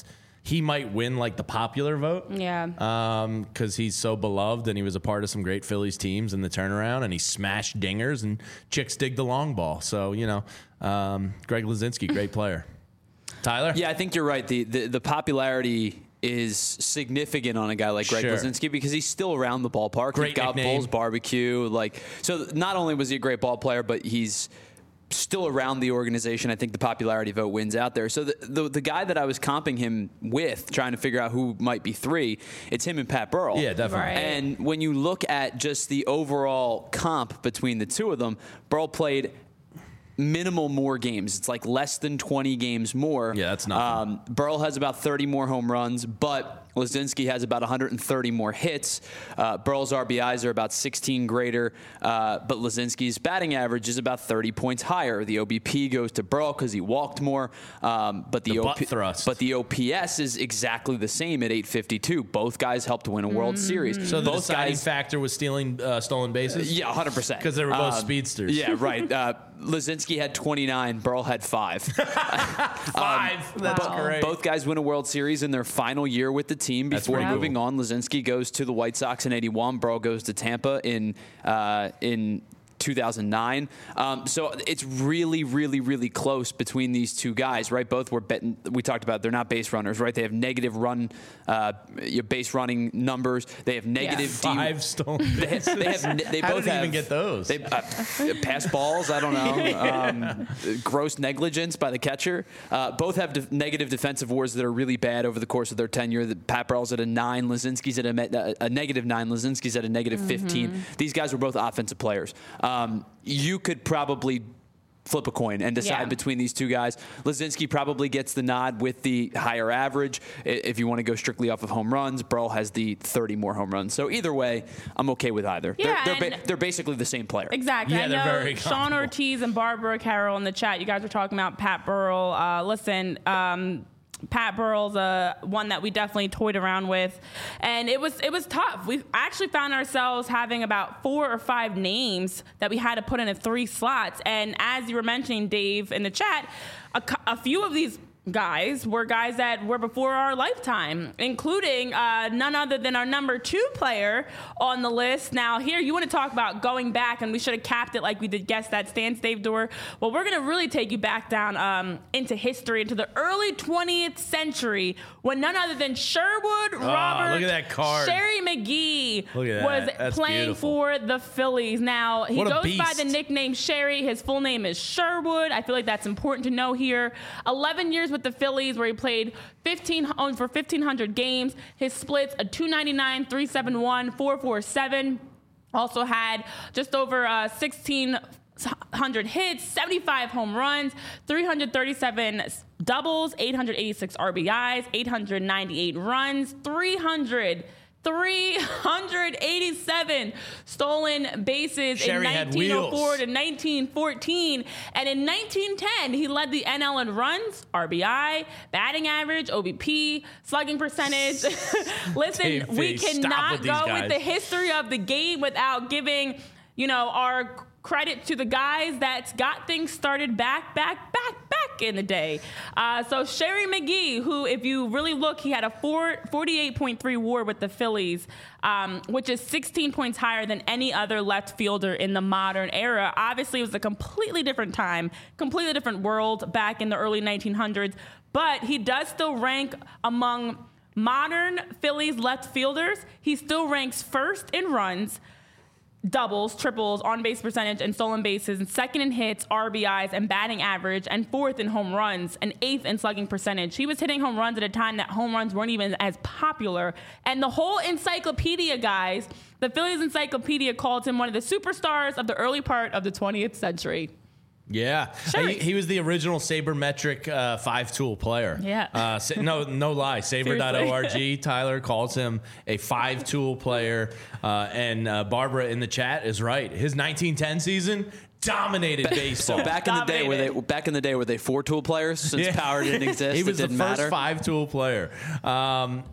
he might win like the popular vote. Yeah. Um, because he's so beloved and he was a part of some great Phillies teams in the turnaround and he smashed dingers and chicks dig the long ball. So, you know, um, Greg Luzinski, great player. Tyler? Yeah, I think you're right. The the, the popularity is significant on a guy like Greg Sure. Luzinski because he's still around the ballpark. Great He got nickname. Bulls barbecue. Like, so not only was he a great ball player, but he's still around the organization. I think the popularity vote wins out there. So the, the the guy that I was comping him with, trying to figure out who might be three, it's him and Pat Burrell. Yeah, definitely. Right. And when you look at just the overall comp between the two of them, Burrell played minimal more games. It's like less than twenty games more. Yeah, that's nothing. Um, Burrell has about thirty more home runs, but Luzinski has about one hundred thirty more hits. Uh, Burrell's R B Is are about sixteen greater, uh, but Luzinski's batting average is about thirty points higher. The O B P goes to Burrell because he walked more, um, but the, The O P, butt thrust. but the O P S is exactly the same at eight fifty-two. Both guys helped win a World Series. So the both deciding guys, factor was stealing uh, stolen bases? yeah, one hundred percent. Because they were both Um, speedsters. Yeah, right. Uh, Luzinski had twenty-nine. Burrell had five. Five. That's Wow. great. Both guys win a World Series in their final year with the team That's before pretty moving cool. on. Luzinski goes to the White Sox in eighty-one. Burrell goes to Tampa in uh, in two thousand nine. Um, so it's really, really, really close between these two guys, right? Both were betting. We talked about they're not base runners, right? They have negative run, uh, your base running numbers. They have negative D- Five stolen They have, they have, they How both did he have, even get those? They uh, pass balls. I don't know. Um, gross negligence by the catcher. Uh, both have de- negative defensive wars that are really bad over the course of their tenure. The Pat Burrell's at a nine. Luzinski's at a, me- a, a negative nine. Luzinski's at a negative fifteen. These guys were both offensive players. Um, you could probably flip a coin and decide Yeah. between these two guys. Luzinski probably gets the nod with the higher average. I- If you want to go strictly off of home runs, Burrell has the thirty more home runs. So either way, I'm okay with either. Yeah, they're, they're, and- ba- they're basically the same player. Exactly. Yeah, I they're know very Sean comparable. Ortiz and Barbara Carroll in the chat. You guys were talking about Pat Burrell. Uh, listen, um, Pat Burrell's uh, one that we definitely toyed around with, and it was it was tough. We actually found ourselves having about four or five names that we had to put in at three slots. And as you were mentioning, Dave, in the chat, a, cou- a few of these guys were guys that were before our lifetime, including uh, none other than our number two player on the list. Now, here, you want to talk about going back, and we should have capped it like we did Guess That Stance, Dave Dorr. Well, we're going to really take you back down um, into history, into the early twentieth century, when none other than Sherwood Robert look at that card. Sherry McGee Look at was that. That's playing beautiful. for the Phillies. Now, he What a goes by the beast. nickname Sherry. His full name is Sherwood. I feel like that's important to know here. eleven years with the Phillies, where he played fifteen on for fifteen hundred games. His splits a two ninety-nine, three seventy-one, four forty-seven. Also had just over uh, sixteen hundred hits, seventy-five home runs, three hundred thirty-seven doubles, eight hundred eighty-six R B Is, eight hundred ninety-eight runs, three hundred three hundred eighty-seven stolen bases Sherry in had nineteen oh four wheels. to nineteen fourteen. And in nineteen ten, he led the N L in runs, R B I, batting average, O B P, slugging percentage. Listen, Dave, we please, stop cannot with these go guys. with the history of the game without giving, you know, our credit to the guys that got things started back, back, back, back in the day. Uh, so Sherry McGee, who, if you really look, he had a four, forty-eight point three WAR with the Phillies, um, which is sixteen points higher than any other left fielder in the modern era. Obviously, it was a completely different time, completely different world back in the early nineteen hundreds, but he does still rank among modern Phillies left fielders. He still ranks first in runs, doubles, triples, on-base percentage, and stolen bases, and second in hits, R B Is, and batting average, and fourth in home runs, and eighth in slugging percentage. He was hitting home runs at a time that home runs weren't even as popular. And the whole encyclopedia, guys, the Phillies Encyclopedia called him one of the superstars of the early part of the twentieth century. Yeah, Sherry. he, he was the original sabermetric uh, five-tool player. Yeah. uh, sa- no, no lie. Saber dot org. Tyler calls him a five-tool player, uh, and uh, Barbara in the chat is right. His nineteen ten season dominated baseball. So back in the day, were they Dominated. back in the day were they four tool players? Since Yeah. power didn't exist, He was it the didn't first matter. five-tool player. Um,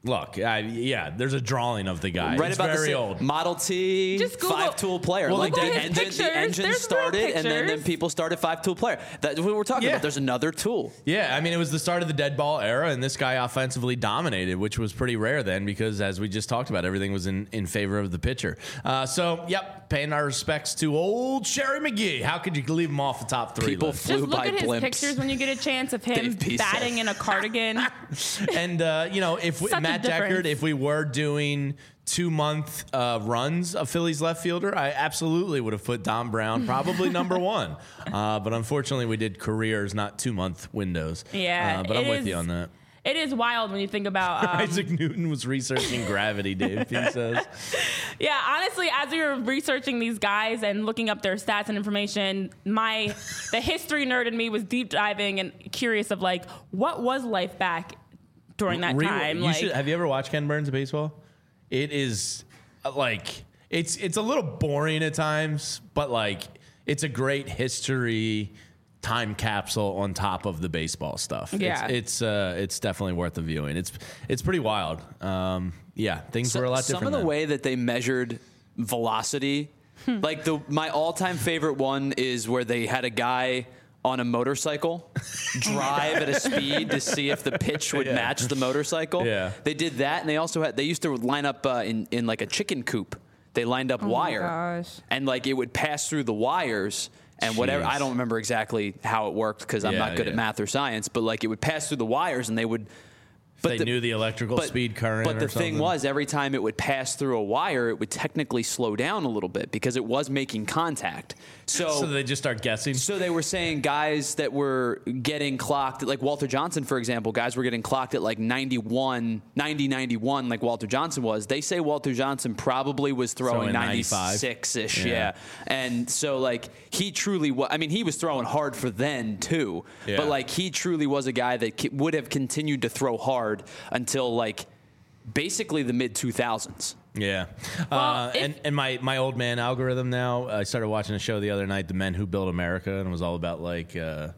Look, I, yeah, there's a drawing of the guy. Right it's about very the old. Model T, Just Google- five-tool player. Well, like Google the, his engine, pictures. the engine There's real started, and then, then pictures. people started five-tool player. That's what we're talking Yeah. about. There's another tool. Yeah, I mean, it was the start of the dead ball era, and this guy offensively dominated, which was pretty rare then because, as we just talked about, everything was in, in favor of the pitcher. Uh, so, yep, paying our respects to old Sherry McGee. How could you leave him off the top three People list? flew Just look by at his blimps. pictures when you get a chance of him Dave P. batting said. in a cardigan. And, uh, you know, if we, Such a Matt difference. Deckard, if we were doing two month uh, runs of Phillies left fielder, I absolutely would have put Dom Brown probably number one. Uh, but unfortunately, we did careers, not two month windows. Yeah, Uh, but I'm it with is- you on that. It is wild when you think about. Um, Isaac Newton was researching gravity, Dave, he says. Yeah, honestly, as we were researching these guys and looking up their stats and information, my the history nerd in me was deep diving and curious of like what was life back during that Re- time. You Like, should, have you ever watched Ken Burns of baseball? It is uh, like it's it's a little boring at times, but like it's a great history time capsule on top of the baseball stuff. Yeah. it's it's, uh, it's definitely worth the viewing. It's it's pretty wild. Um, yeah, things So- were a lot some different. of the then. way that they measured velocity, Hmm. like the my all-time favorite one is where they had a guy on a motorcycle drive at a speed to see if the pitch would Yeah. match the motorcycle. Yeah. They did that, and they also had they used to line up uh, in in like a chicken coop. They lined up Oh my wire, gosh. and like it would pass through the wires. And whatever, Jeez. I don't remember exactly how it worked because I'm Yeah, not good yeah. at math or science, but like it would pass through the wires and they would. they knew the electrical speed current But the or thing something. was, every time it would pass through a wire, it would technically slow down a little bit because it was making contact. So, So they just start guessing. so they were saying guys that were getting clocked, like Walter Johnson, for example, guys were getting clocked at like ninety-one, ninety, ninety-one, like Walter Johnson was. They say Walter Johnson probably was throwing Throwing ninety-five. ninety-six-ish, yeah. Yeah. And so, like, he truly was, I mean, he was throwing hard for then, too. Yeah. But, like, he truly was a guy that ki- would have continued to throw hard until, like, basically the mid two thousands. Yeah. Well, uh, if- and, and my, my old man algorithm now, I started watching a show the other night, The Men Who Built America, and it was all about like, uh,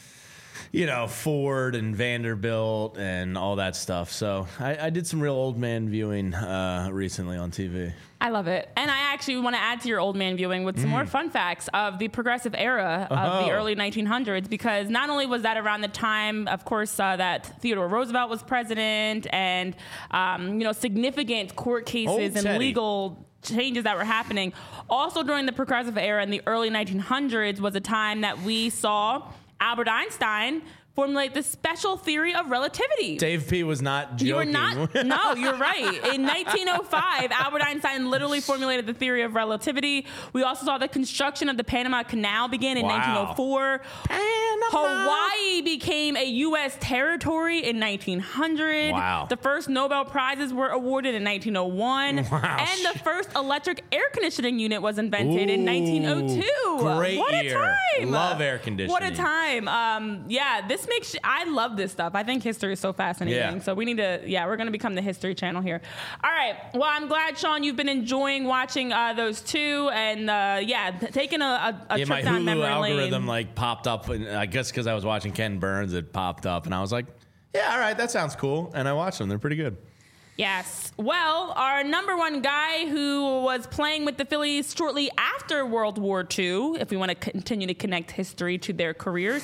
you know, Ford and Vanderbilt and all that stuff. So I, I did some real old man viewing uh, recently on T V. I love it. And I actually want to add to your old man viewing with some more fun facts of the progressive era of Oh. the early nineteen hundreds, because not only was that around the time, of course, uh, that Theodore Roosevelt was president and, um, you know, significant court cases Old and Teddy. legal changes that were happening. Also during the progressive era in the early nineteen hundreds was a time that we saw Albert Einstein formulate the special theory of relativity. Dave P was not joking. You were not. No, you're right. In nineteen oh five, Albert Einstein literally formulated the theory of relativity. We also saw the construction of the Panama Canal begin in Wow. nineteen oh four. Panama. Hawaii became a U S territory in nineteen hundred. Wow. The first Nobel Prizes were awarded in nineteen oh one. Wow. And the first electric air conditioning unit was invented in nineteen oh two. great What a year. time. Love air What a conditioning. time. Um, yeah, this makes, I love this stuff. I think history is so fascinating. Yeah. So we need to, yeah, we're going to become the history channel here. All right. Well, I'm glad, Sean, you've been enjoying watching uh, those two. And uh, yeah, t- taking a, a, a Yeah, trip my down Hulu memory algorithm lane. like popped up, and I guess because I was watching Ken Burns, it popped up, and I was like, "Yeah, all right, that sounds cool." And I watched them; they're pretty good. Yes. Well, our number one guy who was playing with the Phillies shortly after World War Two, if we want to continue to connect history to their careers,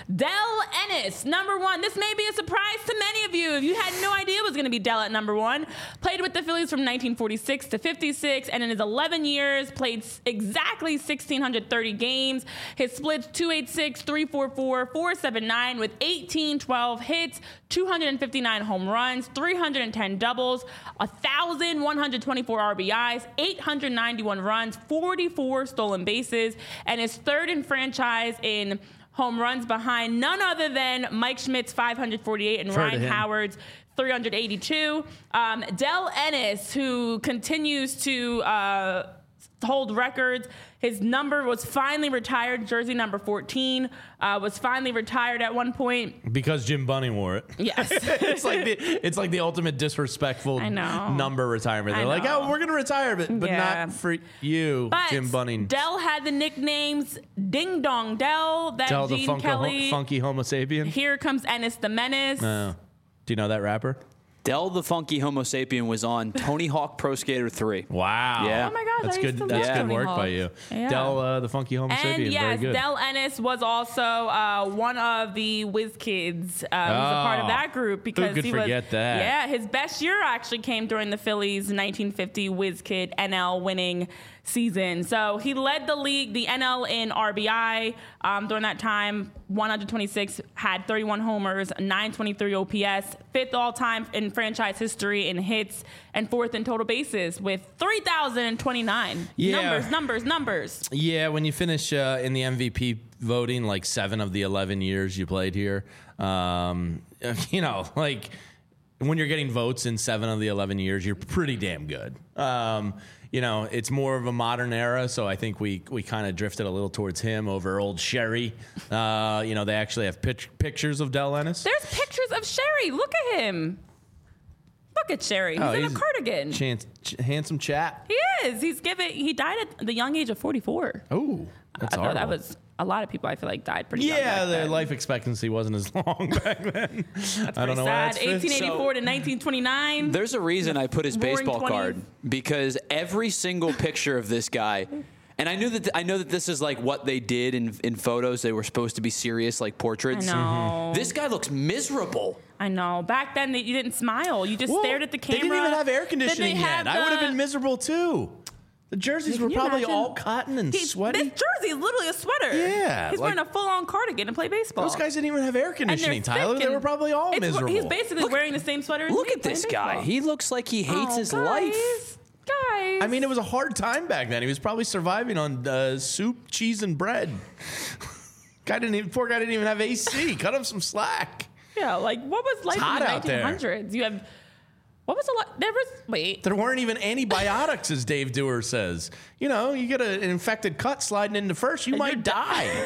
Del Ennis, number one. This may be a surprise to many of you if you had no idea it was going to be Del at number one. Played with the Phillies from nineteen forty-six to fifty-six, and in his eleven years, played s- exactly one thousand six hundred thirty games. His splits two eighty-six, three forty-four, four seventy-nine with eighteen twelve hits, two hundred fifty-nine home runs, three hundred ten doubles, one thousand one hundred twenty-four R B Is, eight hundred ninety-one runs, forty-four stolen bases, and is third in franchise in home runs behind none other than Mike Schmidt's five hundred forty-eight and Heard of Ryan him. Howard's three hundred eighty-two. Um, Del Ennis, who continues to uh, hold records. His number was finally retired. Jersey number fourteen uh, was finally retired at one point. Because Jim Bunning wore it. Yes. it's like the it's like the ultimate disrespectful I know. number retirement. I They're like, know. oh, we're gonna retire, but but Yeah. not for you, But Jim Bunning. Dell had the nicknames Ding Dong Dell, that Tell the Gene funko, Kelly. funky Homo sapien. Here comes Ennis the Menace. Oh. Do you know that rapper? Del the Funky Homo Sapien was on Tony Hawk Pro Skater three. Wow. Yeah. Oh my gosh, That's I used good. to That's love good Tony work Hawk. by you. Yeah. Del, uh, the Funky Homo And Sapien. yes, Very good. Del Ennis was also uh, one of the Whiz Kids. Uh, he was a part of Oh, that group because could he was. forget that? Yeah, his best year actually came during the Phillies' nineteen fifty Whiz Kid N L winning season. So he led the league, the N L in R B I um, during that time. one hundred twenty-six, had thirty-one homers, nine twenty-three O P S, fifth all time in franchise history in hits, and fourth in total bases with three thousand twenty-nine. Yeah. Numbers, numbers, numbers. Yeah, when you finish uh, in the M V P voting, like seven of the eleven years you played here, um, you know, like when you're getting votes in seven of the eleven years, you're pretty damn good. Um, you know, it's more of a modern era, so I think we we kind of drifted a little towards him over old Sherry. Uh, you know, they actually have pic- pictures of Del Ennis. There's pictures of Sherry. Look at him. Look at Sherry. He's Oh, in he's a cardigan. Chance, ch- handsome chap. He is. He's given. He died at the young age of forty-four. Oh, that's I thought that horrible. was a lot of people. I feel like died pretty young. Yeah, back their then. life expectancy wasn't as long back then. I don't know why Sad. that's fifth. eighteen eighty-four to nineteen twenty-nine. There's a reason I put his Roaring baseball twenties. card because every single picture of this guy, and I knew that I know that this is like what they did in in photos. They were supposed to be serious, like I portraits. know. This guy looks miserable. I know. Back then, they, you didn't smile. You just Well, stared at the camera. They didn't even have air Then conditioning they yet. had I would have the- been miserable too. The jerseys Can were you probably imagine? all cotton and He's- sweaty. This jersey is literally a sweater. Yeah, He's like- wearing a full-on cardigan to play baseball. Those guys didn't even have air And they're conditioning, Tyler. thick They and- were probably all it's- miserable. He's basically wearing the same sweater as Look me at this playing guy. baseball. He looks like he hates Oh, his guys, life. Guys. I mean, it was a hard time back then. He was probably surviving on uh, soup, cheese, and bread. Guy didn't even. Poor guy didn't even have A C. Cut him some slack. yeah, like what was life hot in the out there. nineteen hundreds? You have what was a lot? There was wait. There weren't even antibiotics, as Dave Dewar says. You know, you get a, an infected cut sliding into first, you And might you're die.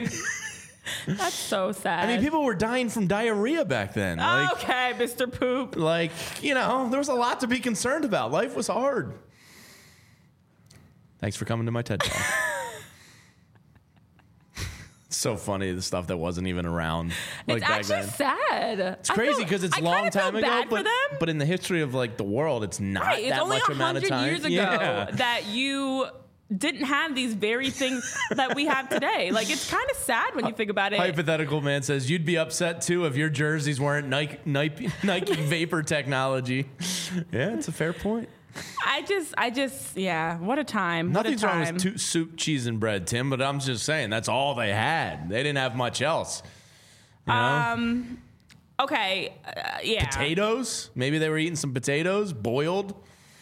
That's so sad. I mean, people were dying from diarrhea back then. Like, okay, Mister Poop. like, you know, there was a lot to be concerned about. Life was hard. Thanks for coming to my TED Talk. It's so funny, the stuff that wasn't even around. Like It's back actually then. sad. It's crazy because it's a long time ago, bad but, for them. but in the history of like the world, it's not Right, it's that only much a amount of hundred time. years ago Yeah. that you didn't have these very things that we have today. Like it's kind of sad when you think about it. Hypothetical man says you'd be upset too if your jerseys weren't Nike Nike, Nike Vapor technology. Yeah, it's a fair point. I just, I just, yeah. What a time. Nothing's what a wrong time. with two, soup, cheese, and bread, Tim. But I'm just saying that's all they had. They didn't have much else. You know? Um. Okay. Uh, yeah. Potatoes? Maybe they were eating some potatoes boiled.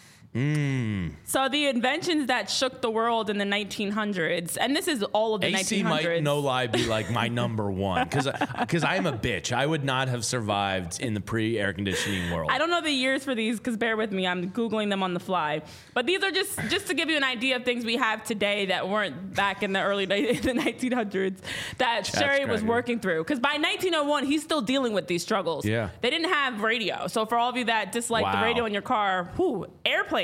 So the inventions that shook the world in the nineteen hundreds, and this is all of the A C nineteen hundreds. might, no lie, be like my number one because because I'm a bitch. I would not have survived in the pre-air conditioning world. I don't know the years for these because bear with me, I'm Googling them on the fly. But these are just just to give you an idea of things we have today that weren't back in the early ni- the nineteen hundreds that Sherry was cracker. working through. Because by nineteen oh one, he's still dealing with these struggles. Yeah. They didn't have radio. So for all of you that dislike the Wow. radio in your car, whew, airplanes.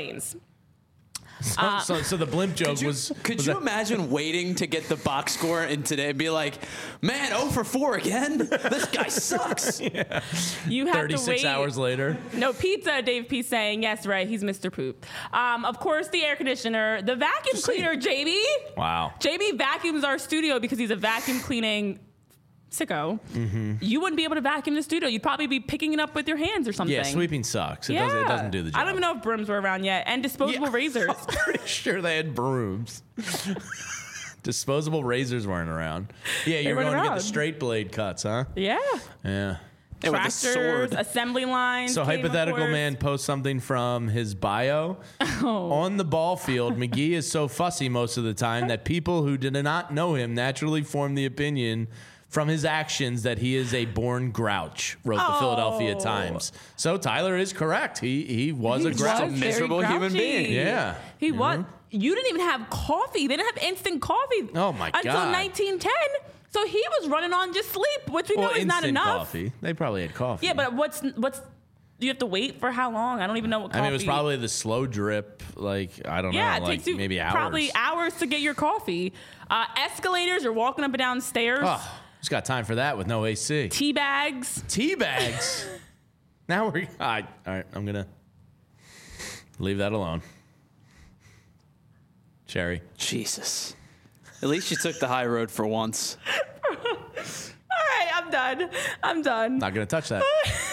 So, so, so the blimp joke Could you, was. could was you that- imagine waiting to get the box score and today and be like, man, oh for four again? This guy sucks. You have to thirty-six wait. hours later? No pizza, Dave P saying, yes, right, he's Mister Poop. Um, of course, the air conditioner, the vacuum cleaner, J B. Wow. J B vacuums our studio because he's a vacuum cleaning sicko. Mm-hmm. You wouldn't be able to vacuum the studio. You'd probably be picking it up with your hands or something. Yeah, sweeping sucks. It, Yeah. doesn't, it doesn't do the job. I don't even know if brooms were around yet. And disposable Yeah. razors. I'm pretty sure they had brooms. Disposable razors weren't around. Yeah, you're weren't going to get around. the straight blade cuts, huh? Yeah. Yeah. And with a Tractors, sword. assembly lines. So cable hypothetical cords. man posts something from his bio. Oh. On the ball field, McGee is so fussy most of the time that people who did not know him naturally form the opinion from his actions that he is a born grouch, wrote the Oh. Philadelphia Times. So Tyler is correct. He he was He a grouch. was very miserable human grouchy. being. Yeah. He was. You didn't even have coffee. They didn't have instant coffee. Oh, my until God. nineteen ten. So he was running on just sleep, which we Well, know is not instant enough. coffee. They probably had coffee. Yeah, but what's what's you have to wait for how long? I don't even know what coffee. I mean, it was probably the slow drip. Like I don't yeah, know, it like takes you maybe hours. probably hours to get your coffee. Uh, escalators, you're walking up and down stairs. Oh, who's got time for that with no A C? Tea bags. Tea bags. Now we're all right. All right, I'm gonna leave that alone. Cherry. Jesus. At least you took the high road for once. All right, I'm done. I'm done. Not gonna touch that.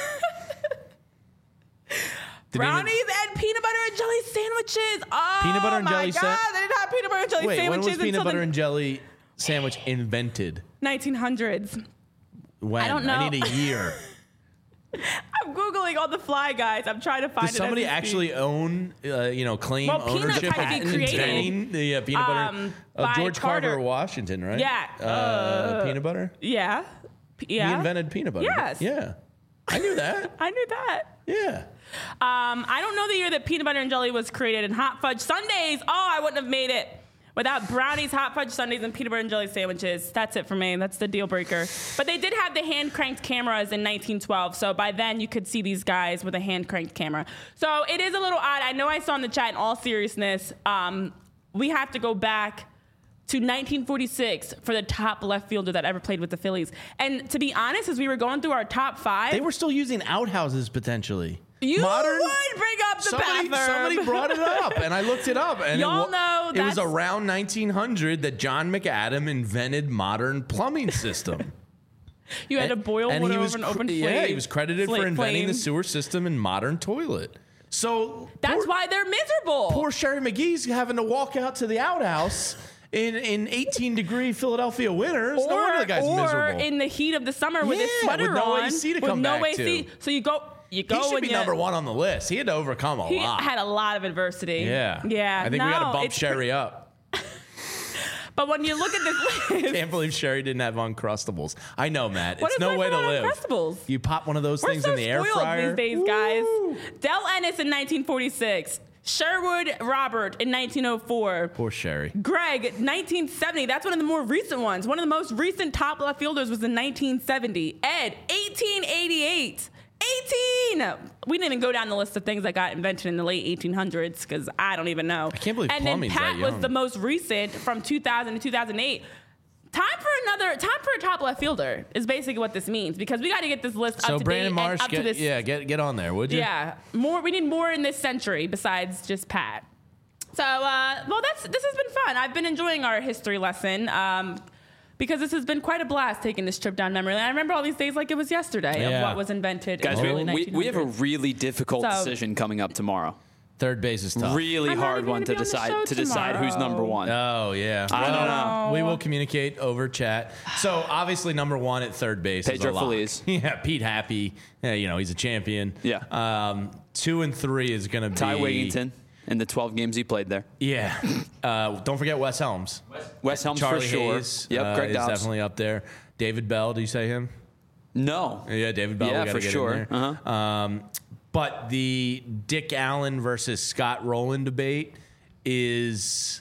Didn't Brownies even- and peanut butter and jelly sandwiches. Oh, Peanut butter and my jelly God. sa- They didn't have peanut butter and jelly Wait, when sandwiches was peanut until butter the and jelly sandwich invented? nineteen hundreds. When? I don't know. I need a year. I'm Googling all the Fly Guys. I'm trying to find Does it. somebody as we actually speak. own, uh, you know, claim Well, peanuts ownership had to be of created, inventing the uh, peanut butter? um, uh, by George Carver, Carter. Washington, right? Yeah, Uh, uh, peanut butter? Yeah. P- Yeah. He invented peanut butter. Yes. Yeah. I knew that. I knew that. Yeah. Um, I don't know the year that peanut butter and jelly was created. And hot fudge sundaes. Oh, I wouldn't have made it without brownies, hot fudge sundaes, and peanut butter and jelly sandwiches. That's it for me. That's the deal breaker. But they did have the hand cranked cameras in nineteen twelve. So by then you could see these guys with a hand cranked camera. So it is a little odd. I know I saw in the chat, in all seriousness, um, we have to go back to nineteen forty-six for the top left fielder that ever played with the Phillies. And to be honest, as we were going through our top five, They were still using outhouses potentially. you Modern. would bring up the Somebody, bathroom. somebody brought it up, and I looked it up. And Y'all it, wa- know it was that's- around nineteen hundred that John McAdam invented modern plumbing system. You had to boil and water he was over an cr- open flame. Yeah, he was credited for flame- inventing the flame. sewer system and modern toilet. So That's poor, why they're miserable. poor Sherry McGee's having to walk out to the outhouse in in eighteen degree Philadelphia winters. or no wonder the guy's or miserable. in the heat of the summer with his Yeah, sweater with no on, A C to with come no back A C. to. So you go, you go, he should and be you, number one on the list. He had to overcome a He lot. had a lot of adversity. yeah, yeah. I think no, we got to bump it's Sherry up. But when you look at this list, Can't believe Sherry didn't have Uncrustables. I know, Matt. What It's is no life way to without live. Uncrustables? You pop one of those we're things so in the air spoiled fryer. these days, Woo! guys. Del Ennis in nineteen forty-six. Sherwood Robert in nineteen oh four. Poor Sherry. Greg, nineteen seventy. That's one of the more recent ones. One of the most recent top left fielders was in nineteen seventy. Ed, eighteen eighty-eight. eighteen! We didn't even go down the list of things that got invented in the late eighteen hundreds because I don't even know. I can't believe And then plumbing's Pat that was young. the most recent from two thousand to two thousand eight. Time for another, time for a top left fielder is basically what this means because we got to get this list So up to Brandon date Marsh, and up get, to this. yeah, get get on there, would you? Yeah, more. We need more in this century besides just Pat. So, uh, well, that's this has been fun. I've been enjoying our history lesson um, because this has been quite a blast taking this trip down memory lane. I remember all these days like it was yesterday Yeah. of what was invented Guys, in the we, early we, we have a nineteen hundreds. really difficult So- decision coming up tomorrow. Third base is tough. Really I'm not hard even one gonna to be on the show decide to decide who's tomorrow. number one. Oh yeah. I don't Well, know. We will communicate over chat. So obviously number one at third base Pedro is a lock. Feliz. Yeah, Pete Happy. Yeah, you know he's a champion. Yeah. Um, two and three is going to be Ty Wigginton in the twelve games he played there. Yeah. Uh, don't forget Wes Helms. Wes Helms Charlie for sure. Hayes. Yep, uh, Greg is Dobbs. definitely up there. David Bell. Do you say him? No. Yeah, David Bell. Yeah, we gotta for get sure. In there. Uh-huh. Um, but the Dick Allen versus Scott Rowland debate is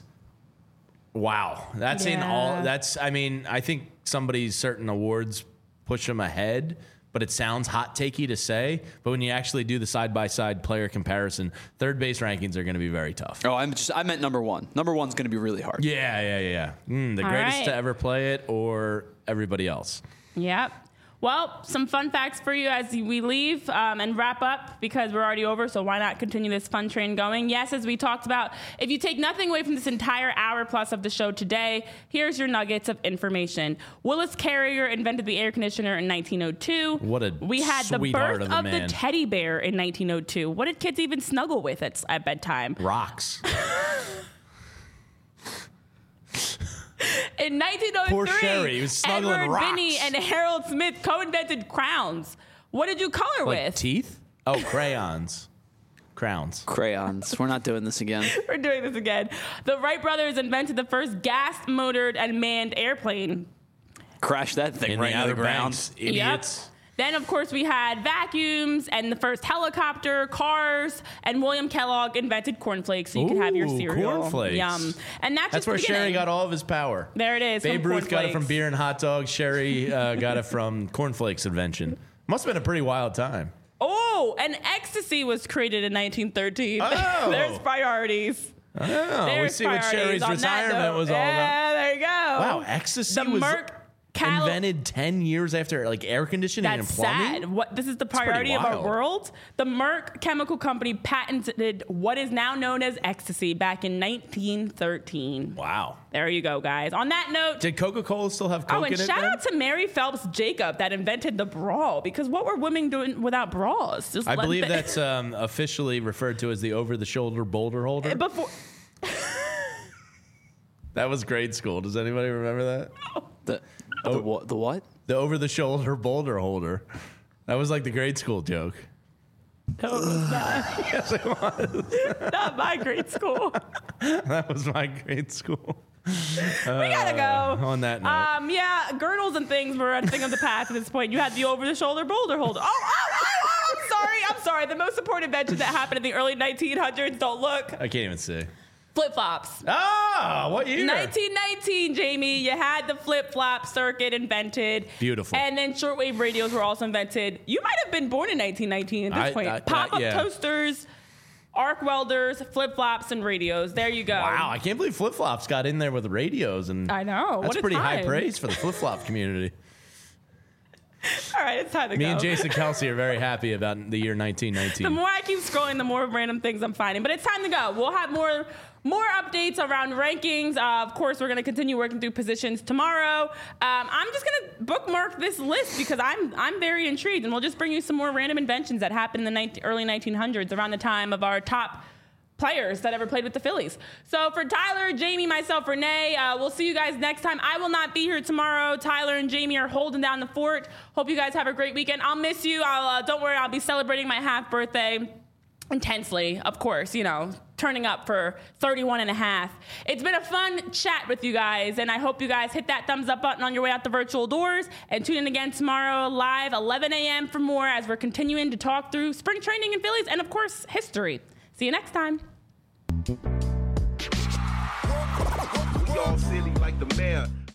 wow. That's in all. Yeah. That's. I mean, I think somebody's certain awards push them ahead. But it sounds hot takey to say. But when you actually do the side by side player comparison, third base rankings are going to be very tough. Oh, I'm just I meant number one. Number one's going to be really hard. Yeah, yeah, yeah. Mm, the All greatest right. to ever play it, or everybody else. Yep. Well, some fun facts for you as we leave um, and wrap up because we're already over, so why not continue this fun train going? Yes, as we talked about, if you take nothing away from this entire hour plus of the show today, here's your nuggets of information. Willis Carrier invented the air conditioner in nineteen oh two. What a We had the sweetheart birth of a of, man. the teddy bear in nineteen oh two. What did kids even snuggle with at, at bedtime? Rocks. In nineteen oh three, Poor Sherry, he was snuggling Edward rocks. Binney and Harold Smith co-invented crowns. What did you color Like with? teeth? Oh, crayons. Crowns. Crayons. We're not doing this again. We're doing this again. The Wright brothers invented the first gas-motored and manned airplane. Crash that thing In right the into Outer the ground. Banks, idiots. Yep. Then, of course, we had vacuums and the first helicopter, cars, and William Kellogg invented cornflakes so you could have your Ooh, cereal. cornflakes. Yum. And that's, That's just the where Sherry beginning. got all of his power. There it is. Babe from Ruth got it from cornflakes. beer and hot dogs. Sherry uh, got it from cornflakes invention. Must have been a pretty wild time. Oh, and ecstasy was created in nineteen thirteen. Oh. There's priorities. Oh, we There's see what priorities Sherry's on that retirement note. was all about. Yeah, there you go. Wow, ecstasy The was Merck. Cal- invented ten years after like air conditioning That's and plumbing. sad. What this is the pretty priority of our wild. world. The Merck Chemical Company patented what is now known as ecstasy back in nineteen thirteen. Wow. There you go, guys. On that note, Did Coca-Cola still have Coke oh, and in it shout then? out to Mary Phelps Jacob that invented the bra, because what were women doing without bras? Just I let believe the- that's um, officially referred to as the over-the-shoulder boulder holder. before. That was grade school. Does anybody remember that? The, Oh. the, what, the what? The over-the-shoulder boulder holder. That was like the grade school joke. No, it was not. Yes, it was. Not my grade school. That was my grade school. We gotta go. On that note. Um, yeah, girdles and things were a thing of the past at this point. You had the over-the-shoulder boulder holder. Oh, oh, oh, oh, I'm sorry, I'm sorry. The most important invention that happened in the early nineteen hundreds, don't look, I can't even see. flip-flops. Ah, what year? nineteen nineteen, Jamie, you had the flip-flop circuit invented. Beautiful. And then shortwave radios were also invented. You might have been born in nineteen nineteen at this I- point. I- I- Pop-up yeah. toasters, arc welders, flip-flops, and radios. There you go. Wow, I can't believe flip-flops got in there with radios. And I know. That's What a pretty high time. praise for the flip-flop community. All right, it's time to Me go. and Jason Kelsey are very happy about the year nineteen nineteen. The more I keep scrolling, the more random things I'm finding. But it's time to go. We'll have more more updates around rankings. Uh, of course, we're going to continue working through positions tomorrow. Um, I'm just going to bookmark this list because I'm I'm very intrigued, and we'll just bring you some more random inventions that happened in the nineteen, early nineteen hundreds around the time of our top players that ever played with the Phillies. So for Tyler, Jamie, myself, Renee, uh, we'll see you guys next time. I will not be here tomorrow. Tyler and Jamie are holding down the fort. Hope you guys have a great weekend. I'll miss you. I'll uh, don't worry. I'll be celebrating my half birthday intensely, of course, you know, turning up for thirty-one and a half. It's been a fun chat with you guys, and I hope you guys hit that thumbs up button on your way out the virtual doors and tune in again tomorrow live, eleven a.m. for more as we're continuing to talk through spring training in Phillies and, of course, history. See you next time. We all silly like the mayor.